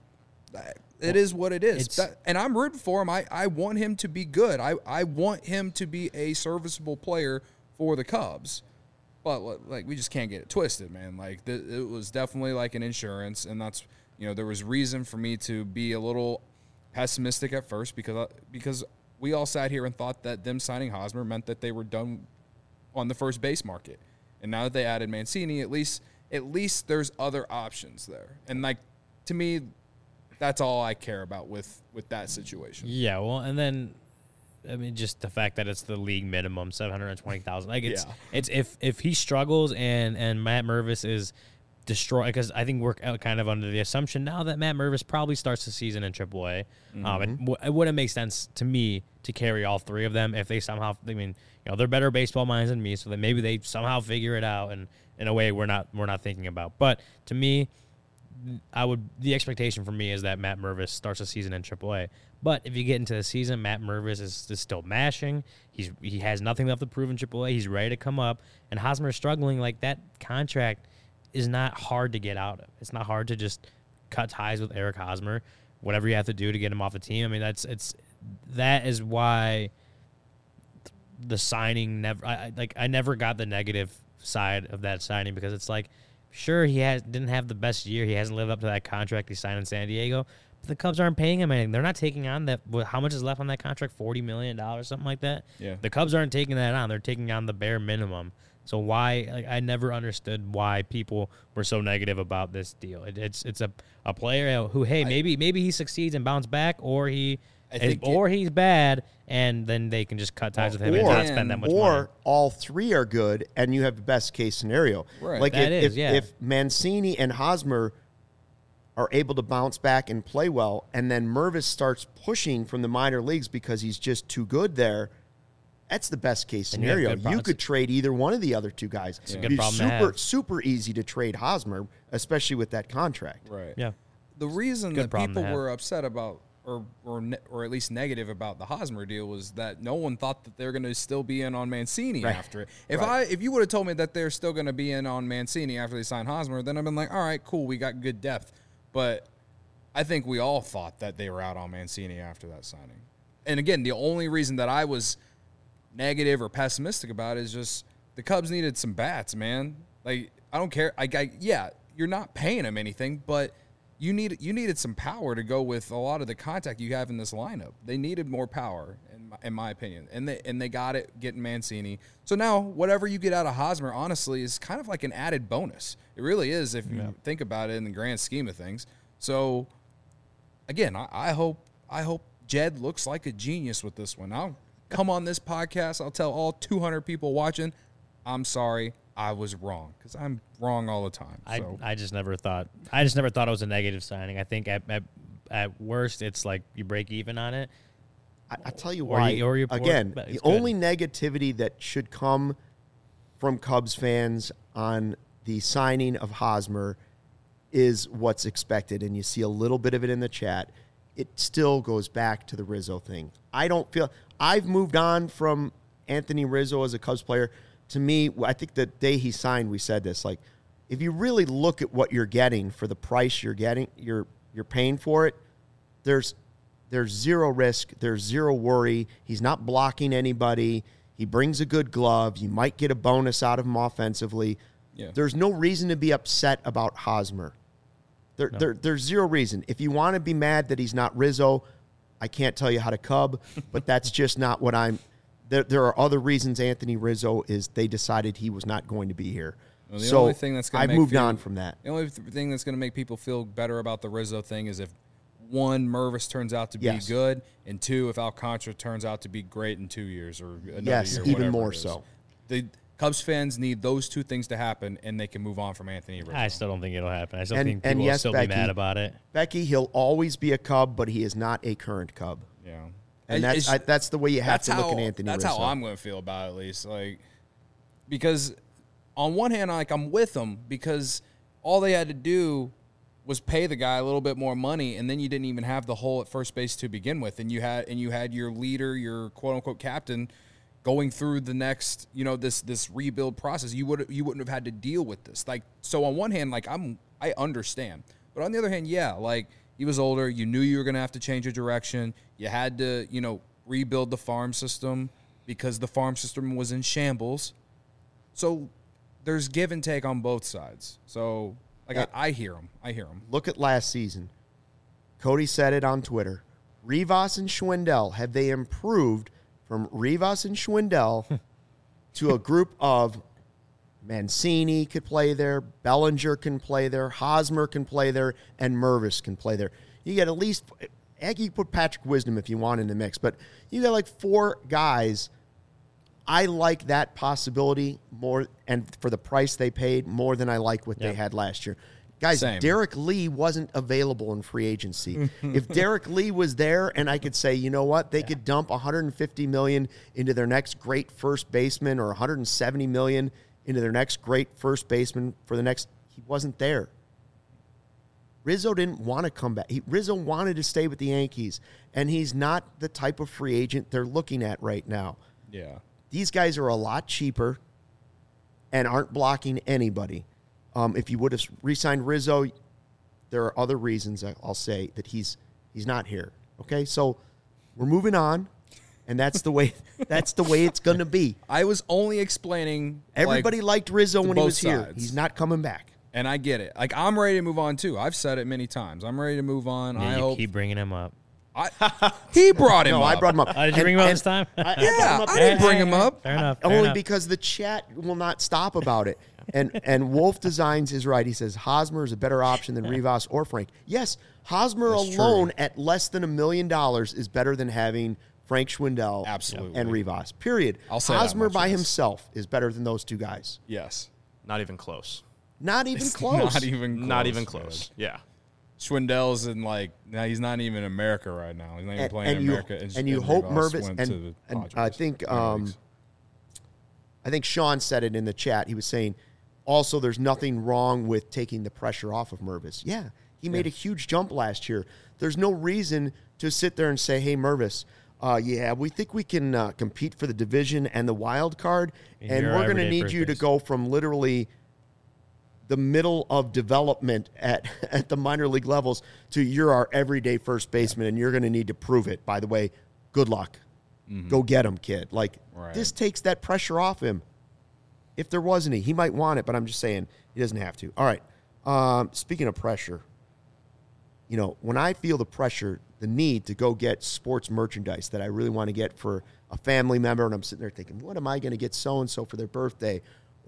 it is what it is. And I'm rooting for him. I want him to be good. I want him to be a serviceable player for the Cubs. But, we just can't get it twisted, man. It was definitely like an insurance, and that's, there was reason for me to be a little pessimistic at first because we all sat here and thought that them signing Hosmer meant that they were done on the first base market. And now that they added Mancini, at least there's other options there. And to me, that's all I care about with that situation. Yeah, well, and then I mean just the fact that it's the league minimum, $720,000. It's if he struggles and Matt Mervis is destroyed, because I think we're kind of under the assumption now that Matt Mervis probably starts the season in AAA. It wouldn't make sense to me to carry all three of them if they somehow. I mean, they're better baseball minds than me, so that maybe they somehow figure it out and in a way we're not thinking about. But to me, the expectation for me is that Matt Mervis starts the season in AAA. But if you get into the season, Matt Mervis is still mashing. He has nothing left to prove in AAA. He's ready to come up, and Hosmer is struggling. That contract is not hard to get out of. It's not hard to just cut ties with Eric Hosmer. Whatever you have to do to get him off the team. I mean, that is why the signing I never got the negative side of that signing, because it's sure, he didn't have the best year. He hasn't lived up to that contract he signed in San Diego. But the Cubs aren't paying him anything. They're not taking on that. How much is left on that contract? $40 million, something like that. Yeah. The Cubs aren't taking that on. They're taking on the bare minimum. So why? I never understood why people were so negative about this deal. It's a player who, hey, maybe he succeeds and bounce back, or he's bad, and then they can just cut ties with him and not spend that much money. Or all three are good, and you have the best case scenario. Right. If Mancini and Hosmer are able to bounce back and play well, and then Mervis starts pushing from the minor leagues because he's just too good there, that's the best case And you have scenario. good You pro- could trade either one of the other two guys. It's a It'd good be problem to super, have. super easy to trade Hosmer, especially with that contract. Right. Yeah. The reason Good that problem to people have. were upset about, or at least negative about the Hosmer deal, was that no one thought that they're going to still be in on Mancini Right. after it. If you would have told me that they're still going to be in on Mancini after they sign Hosmer, then I've been like, all right, cool, we got good depth. But I think we all thought that they were out on Mancini after that signing. And again, the only reason that I was negative or pessimistic about it is just the Cubs needed some bats, man. Like, I don't care. Yeah, you're not paying them anything, but you needed some power to go with a lot of the contact you have in this lineup. They needed more power, in my opinion, and they got it getting Mancini. So now whatever you get out of Hosmer, honestly, is kind of like an added bonus. It really is if you think about it in the grand scheme of things. So again, I hope Jed looks like a genius with this one. I'll come on this podcast. I'll tell all 200 people watching, I'm sorry, I was wrong, because I'm wrong all the time. So. I just never thought it was a negative signing. I think at worst it's like you break even on it. I tell you Or why. you pour- Again, but the it's good. only negativity that should come from Cubs fans on the signing of Hosmer is what's expected, and you see a little bit of it in the chat. It still goes back to the Rizzo thing. I've moved on from Anthony Rizzo as a Cubs player. To me, I think the day he signed, we said this, like, if you really look at what you're getting for the price you're getting, you're paying for it, there's zero risk, there's zero worry. He's not blocking anybody. He brings a good glove. You might get a bonus out of him offensively. Yeah. There's no reason to be upset about Hosmer. There's zero reason. If you want to be mad that he's not Rizzo, I can't tell you how to Cub, but that's just not what I'm. There are other reasons Anthony Rizzo is they decided he was not going to be here. Well, the so only thing that's gonna I've make moved people- on from that. The only thing that's going to make people feel better about the Rizzo thing is if, one, Mervis turns out to be Yes. good, and two, if Alcantara turns out to be great in 2 years or another Yes, year, even whatever more it is. so. The Cubs fans need those two things to happen, and they can move on from Anthony Rizzo. I still don't think it'll happen. I still And- think and people will yes, still Becky, be mad about it. Becky, he'll always be a Cub, but he is not a current Cub. Yeah. And It's- that's the way you have that's to look how- at Anthony That's Rizzo. how I'm going to feel about it, at least. Like, because on one hand, like, I'm with them because all they had to do was pay the guy a little bit more money, and then you didn't even have the hole at first base to begin with, and you had your leader, your quote unquote captain, going through the next, this rebuild process. You wouldn't have had to deal with this. Like, so on one hand, like, I understand, but on the other hand, yeah, like, he was older. You knew you were going to have to change your direction. You had to, rebuild the farm system because the farm system was in shambles. So there's give and take on both sides. So, like, Yeah. I hear him. I hear him. Look at last season. Cody said it on Twitter. Rivas and Schwindel, have they improved from Rivas and Schwindel to a group of Mancini could play there, Bellinger can play there, Hosmer can play there, and Mervis can play there. You get at least, heck, you put Patrick Wisdom if you want in the mix, but you got like 4 guys. I like that possibility more, and for the price they paid, more than I like what they had last year. Guys, Same. Derek Lee wasn't available in free agency. If Derek Lee was there and I could say, you know what, they could dump $150 million into their next great first baseman or $170 million into their next great first baseman for the next, he wasn't there. Rizzo didn't want to come back. Rizzo wanted to stay with the Yankees, and he's not the type of free agent they're looking at right now. Yeah. These guys are a lot cheaper and aren't blocking anybody. If you would have re-signed Rizzo, there are other reasons I'll say that he's not here. Okay, so we're moving on, and that's the way it's going to be. I was only explaining. Everybody liked Rizzo to when he both was here. sides. He's not coming back. And I get it. Like, I'm ready to move on, too. I've said it many times. I'm ready to move on. Yeah, I you hope. keep bringing him up. He brought him No, up. I brought him up. Did you bring him up this time? I brought him Yeah, up I didn't bring him up. Fair enough. fair Only enough. because the chat will not stop about it. And Wolf Designs is right. He says Hosmer is a better option than Rivas or Frank. Yes, Hosmer That's alone true. at less than $1 million is better than having Frank Schwindel Absolutely. and Rivas. Period. I'll say that Hosmer much, by yes. himself is better than those two guys. Yes. Not even close. Not even It's close. Not even close. Not even close. man. Yeah. Schwindel's in now he's not even in America right now. He's not even playing in America. And you hope Mervis and I think Sean said it in the chat. He was saying also there's nothing wrong with taking the pressure off of Mervis. Yeah, he made a huge jump last year. There's no reason to sit there and say, hey, Mervis, we think we can compete for the division and the wild card, and we're going to need you to go from literally the middle of development at the minor league levels to you're our everyday first baseman, and you're going to need to prove it. By the way, good luck. Mm-hmm. Go get him, kid. This takes that pressure off him. If there was any, he might want it, but I'm just saying he doesn't have to. All right. Speaking of pressure, when I feel the pressure, the need to go get sports merchandise that I really want to get for a family member, and I'm sitting there thinking, what am I going to get so-and-so for their birthday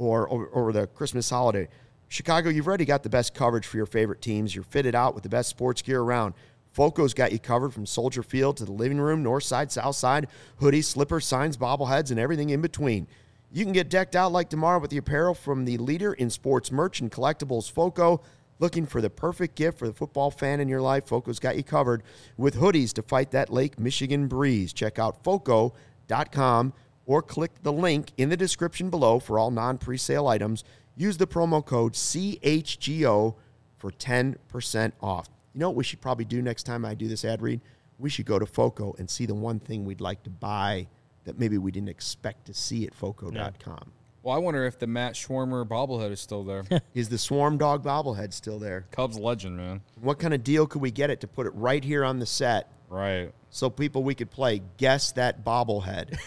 or the Christmas holiday? Chicago, you've already got the best coverage for your favorite teams. You're fitted out with the best sports gear around. Foco's got you covered from Soldier Field to the living room, north side, south side, hoodies, slippers, signs, bobbleheads, and everything in between. You can get decked out like tomorrow with the apparel from the leader in sports merch and collectibles, Foco. Looking for the perfect gift for the football fan in your life? Foco's got you covered with hoodies to fight that Lake Michigan breeze. Check out Foco.com or click the link in the description below for all non-presale items. Use the promo code CHGO for 10% off. You know what we should probably do next time I do this ad read? We should go to Foco and see the one thing we'd like to buy that maybe we didn't expect to see at Foco.com. Yeah. Well, I wonder if the Matt Schwarmer bobblehead is still there. Is the Swarm Dog bobblehead still there? Cubs legend, man. What kind of deal could we get it to put it right here on the set? Right. So we could play Guess That Bobblehead.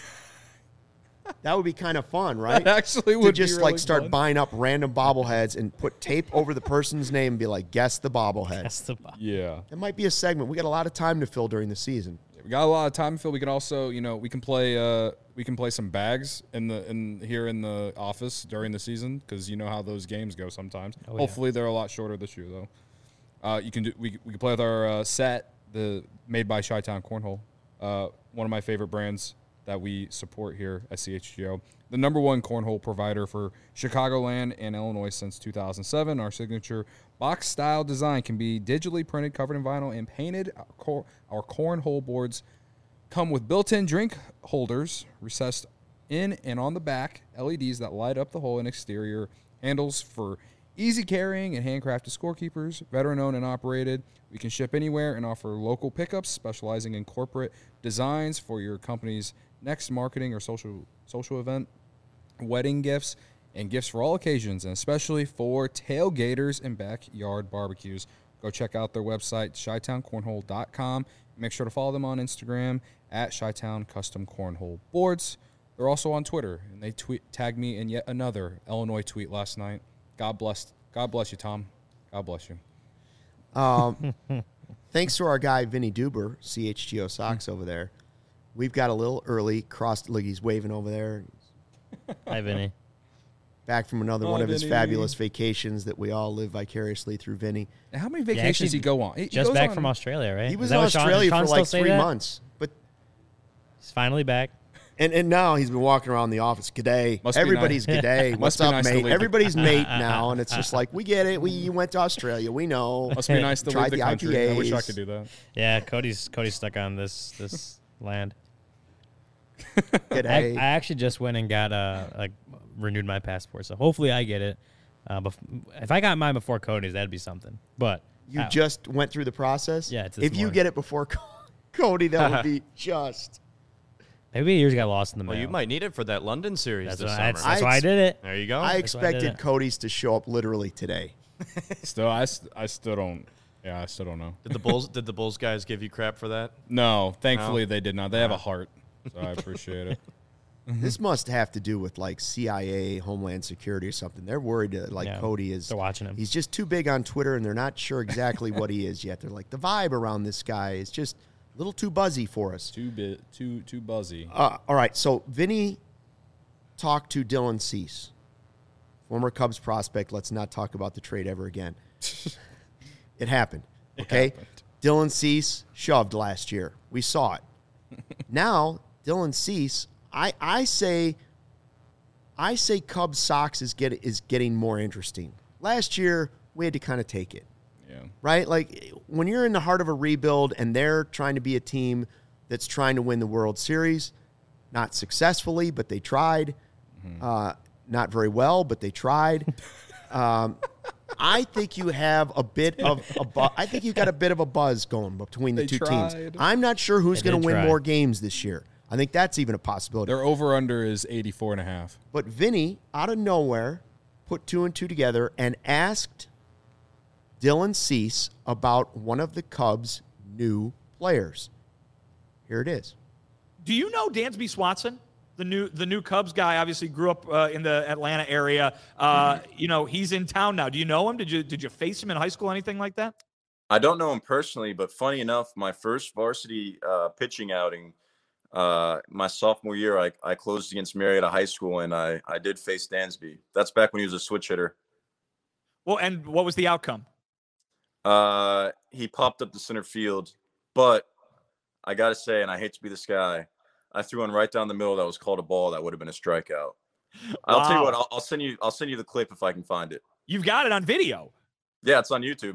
That would be kind of fun, right? That actually would to just be really start fun. Buying up random bobbleheads and put tape over the person's name and be like, guess the bobblehead. Guess the bobblehead. Yeah. That might be a segment. We got a lot of time to fill during the season. We got a lot of time to fill. We can also, we can play some bags here in the office during the season because you know how those games go sometimes. Oh, Hopefully they're a lot shorter this year though. We can play with our set, the made by Chi-Town Cornhole, one of my favorite brands that we support here at CHGO. The number one cornhole provider for Chicagoland and Illinois since 2007. Our signature box-style design can be digitally printed, covered in vinyl, and painted. Our cornhole boards come with built-in drink holders, recessed in and on the back, LEDs that light up the hole, and exterior handles for easy carrying and handcrafted scorekeepers, veteran-owned and operated. We can ship anywhere and offer local pickups, specializing in corporate designs for your company's next marketing or social event, wedding gifts, and gifts for all occasions, and especially for tailgaters and backyard barbecues. Go check out their website, ChiTownCornhole.com. Make sure to follow them on Instagram at Chi-Town Custom Cornhole Boards. They're also on Twitter, and they tagged me in yet another Illinois tweet last night. God bless you, Tom. God bless you. Thanks to our guy, Vinny Duber, CHGO Socks over there. We've got a little early. Look, he's waving over there. Hi, Vinny. Back from another one of his fabulous vacations that we all live vicariously through Vinny. How many vacations does he go on? Just back from Australia, right? He was in Australia for like 3 months. But he's finally back. And now he's been walking around the office. G'day. Everybody's nice. G'day. What's up, nice mate? Everybody's mate now. And it's just like, we get it. You went to Australia. We know. Must be nice to leave the country. IPAs. I wish I could do that. Yeah, Cody's stuck on this land. I actually just went and got renewed my passport, so hopefully I get it. If I got mine before Cody's, that'd be something. But you just went through the process. Yeah, if you get it before Cody, that would be just. Maybe yours got lost in the mail. Well, you might need it for that London series this summer. That's why I did it. There you go. I expected Cody's to show up literally today. I still don't. Yeah, I still don't know. Did the Bulls guys give you crap for that? No, thankfully they did not. They have a heart, so I appreciate it. This must have to do with like CIA, Homeland Security or something. They're worried that Cody is. They're watching him. He's just too big on Twitter, and they're not sure exactly what he is yet. They're like, the vibe around this guy is just a little too buzzy for us. Too buzzy. All right, so Vinny talked to Dylan Cease, former Cubs prospect. Let's not talk about the trade ever again. It happened. Okay, Dylan Cease shoved last year. We saw it. Now Dylan Cease. I say Cubs Sox is getting more interesting. Last year we had to kind of take it. Right? Like when you're in the heart of a rebuild and they're trying to be a team that's trying to win the World Series, not successfully, but they tried. Not very well, but they tried. I think you have a bit of I think you've got a bit of a buzz going between the two teams. I'm not sure who's going to win more games this year. I think that's even a possibility. Their over-under is 84.5. But Vinny, out of nowhere, put 2 and 2 together and asked Dylan Cease about one of the Cubs' new players. Here it is. Do you know Dansby Swanson? The new Cubs guy obviously grew up in the Atlanta area. He's in town now. Do you know him? Did you face him in high school, anything like that? I don't know him personally, but funny enough, my first varsity pitching outing, my sophomore year, I closed against Marietta High School, and I did face Dansby. That's back when he was a switch hitter. Well, and what was the outcome? He popped up to center field, but I got to say, and I hate to be this guy, I threw one right down the middle that was called a ball that would have been a strikeout. I'll tell you what, I'll send you the clip if I can find it. You've got it on video. Yeah, it's on YouTube.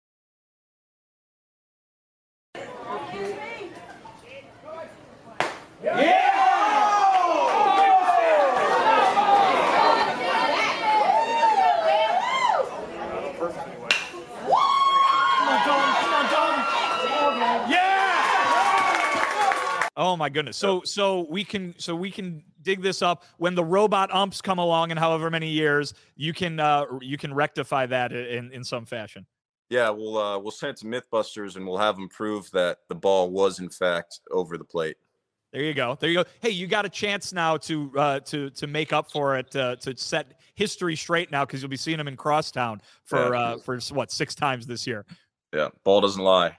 Oh my goodness! So we can dig this up when the robot umps come along in however many years. You can rectify that in some fashion. Yeah, we'll send it to MythBusters and we'll have them prove that the ball was in fact over the plate. There you go. Hey, you got a chance now to make up for it, to set history straight now, because you'll be seeing him in Crosstown for 6 times this year. Yeah, ball doesn't lie.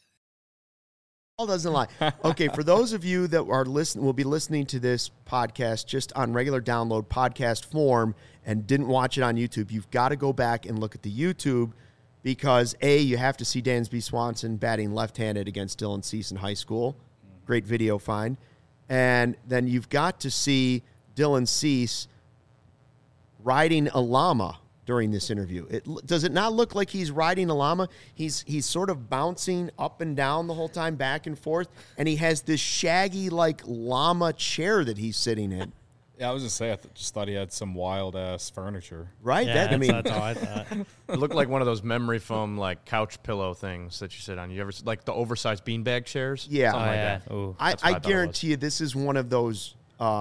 Ball doesn't lie. Okay, for those of you that are will be listening to this podcast just on regular download podcast form and didn't watch it on YouTube, you've got to go back and look at the YouTube, because you have to see Dansby Swanson batting left-handed against Dylan Cease in high school. Great video find. And then you've got to see Dylan Cease riding a llama during this interview. Does it not look like he's riding a llama? He's sort of bouncing up and down the whole time, back and forth, and he has this shaggy like llama chair that he's sitting in. Yeah, I was just saying, just thought he had some wild ass furniture. Right? Yeah, that's how I thought. It looked like one of those memory foam like couch pillow things that you sit on. You ever like the oversized beanbag chairs? Yeah. Something like that. Ooh. I guarantee you this is one of those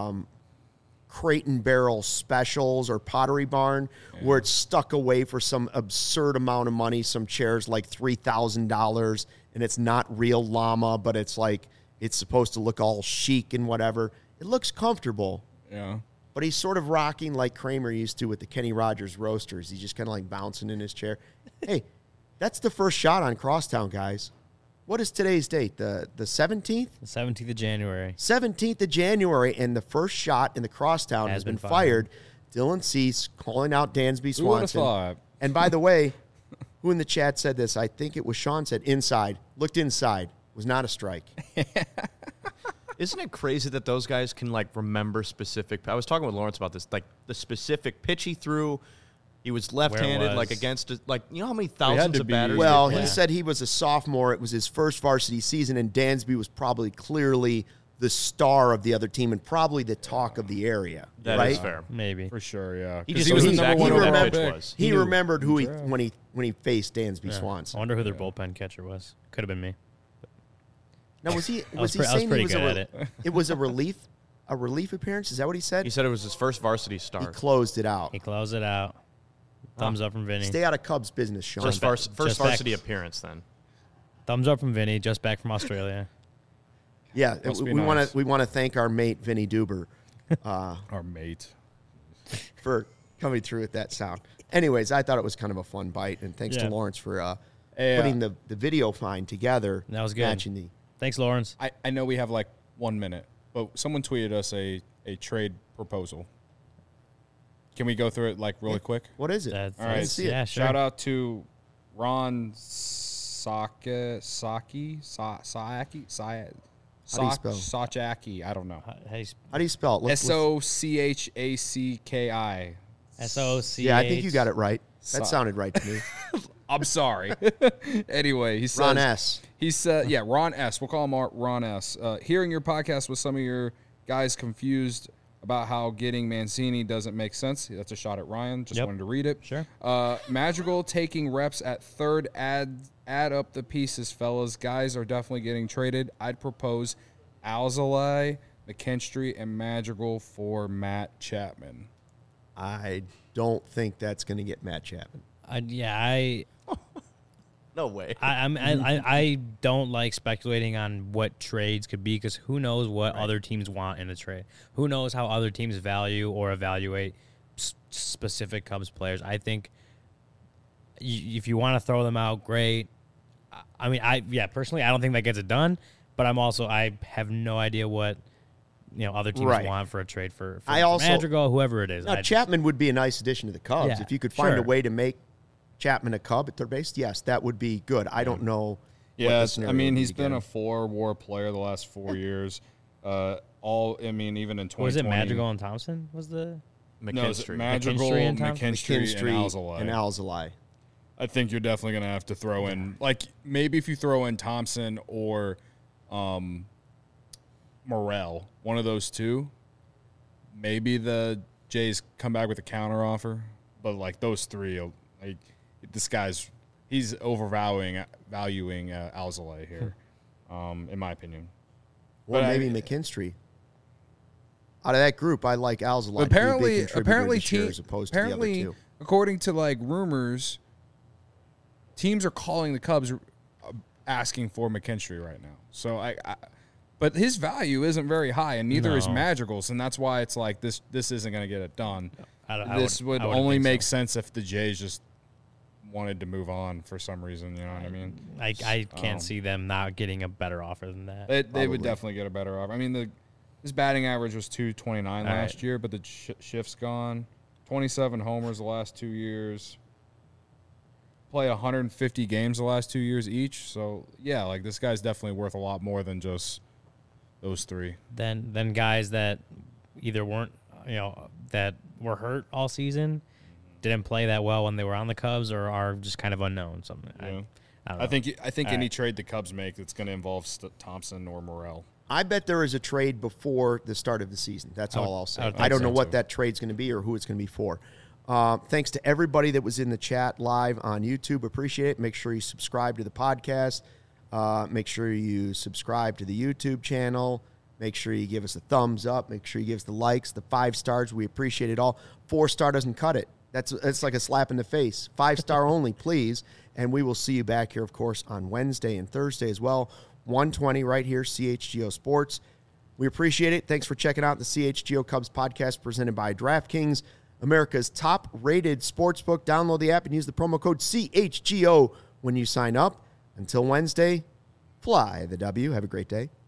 Crate and Barrel specials or Pottery Barn where it's stuck away for some absurd amount of money. Some chairs like $3,000, and it's not real llama, but it's like it's supposed to look all chic and whatever. It looks comfortable. Yeah. But he's sort of rocking like Kramer used to with the Kenny Rogers Roasters. He's just kind of like bouncing in his chair. Hey, that's the first shot on Crosstown, guys. What is today's date? The 17th? The 17th of January. 17th of January, and the first shot in the Crosstown has been fired. Dylan Cease calling out Dansby Swanson. And by the way, who in the chat said this? I think it was Sean said inside. Looked inside. Was not a strike. Isn't it crazy that those guys can like remember specific? I was talking with Lawrence about this, like the specific pitch he threw. He was left-handed, like against, like, you know how many thousands of batters? Well, he said he was a sophomore. It was his first varsity season, and Dansby was probably clearly the star of the other team and probably the talk of the area. That right? is fair, maybe for sure. Yeah, he was exactly who that pitch was. He remembered who when he faced Dansby Swanson. I wonder who their bullpen catcher was. Could have been me. Now was he saying pretty good at it? It was a relief appearance? Is that what he said? He said it was his first varsity start. He closed it out. He closed it out. Thumbs up from Vinny. Stay out of Cubs business, Sean. First varsity appearance, then. Thumbs up from Vinny, just back from Australia. Yeah, we want to thank our mate Vinny Duber, our mate, for coming through with that sound. Anyways, I thought it was kind of a fun bite, and thanks to Lawrence for putting the video find together. That was good. Thanks, Lawrence. I know we have like 1 minute, but someone tweeted us a trade proposal. Can we go through it like really quick? What is it? All right. Yeah, sure. Shout out to Ron Saki. Sochacki. I don't know. How do you spell it? Sochacki. SOC. Yeah, I think you got it right. That sounded right to me. I'm sorry. Anyway, he says Ron S. He said, yeah, Ron S. We'll call him Ron S. Hearing your podcast with some of your guys confused about how getting Mancini doesn't make sense. That's a shot at Ryan. Just wanted to read it. Sure. Madrigal taking reps at third. Add up the pieces, fellas. Guys are definitely getting traded. I'd propose Alzolay, McKinstry, and Madrigal for Matt Chapman. I don't think that's going to get Matt Chapman. No way. I don't like speculating on what trades could be because who knows what other teams want in a trade. Who knows how other teams value or evaluate specific Cubs players. I think if you want to throw them out, great. I mean, personally, I don't think that gets it done, but I have no idea what other teams want for a trade for Madrigal, whoever it is. Now, Chapman would be a nice addition to the Cubs. If you could find a way to make Chapman a Cub at third base, yes, that would be good. I don't know. Yes, I mean, he's been a 4-WAR player the last 4 years. Even in 2020. Was it Madrigal and Thompson? Was the McKinstry? Madrigal, McKinstry, and Alzolay. I think you're definitely going to have to throw in, maybe if you throw in Thompson or Morel, one of those two, maybe the Jays come back with a counteroffer. But those three, he's overvaluing Alzolay here, in my opinion. Well, maybe McKinstry. Out of that group, I like Alzolay. Apparently, according to rumors, teams are calling the Cubs asking for McKinstry right now. So but his value isn't very high, and neither is Madrigal's, and that's why it's this isn't going to get it done. This would only make sense if the Jays just wanted to move on for some reason. You know what I mean? I can't see them not getting a better offer than that. They would definitely get a better offer. I mean, his batting average was .229 last year, but the shift's gone. 27 homers the last 2 years. Play 150 games the last 2 years each. So, yeah, this guy's definitely worth a lot more than just those three. Then guys that either weren't, that were hurt all season, didn't play that well when they were on the Cubs, or are just kind of unknown. Something. Yeah. I don't know. I think any trade the Cubs make that's going to involve Thompson or Morel. I bet there is a trade before the start of the season. That's all I'll say. I don't know what that trade's going to be or who it's going to be for. Thanks to everybody that was in the chat live on YouTube. Appreciate it. Make sure you subscribe to the podcast. Make sure you subscribe to the YouTube channel. Make sure you give us a thumbs up. Make sure you give us the likes, the 5 stars. We appreciate it all. 4-star doesn't cut it. That's like a slap in the face. 5-star only, please. And we will see you back here, of course, on Wednesday and Thursday as well. 1:20 right here, CHGO Sports. We appreciate it. Thanks for checking out the CHGO Cubs podcast presented by DraftKings, America's top-rated sportsbook. Download the app and use the promo code CHGO when you sign up. Until Wednesday, fly the W. Have a great day.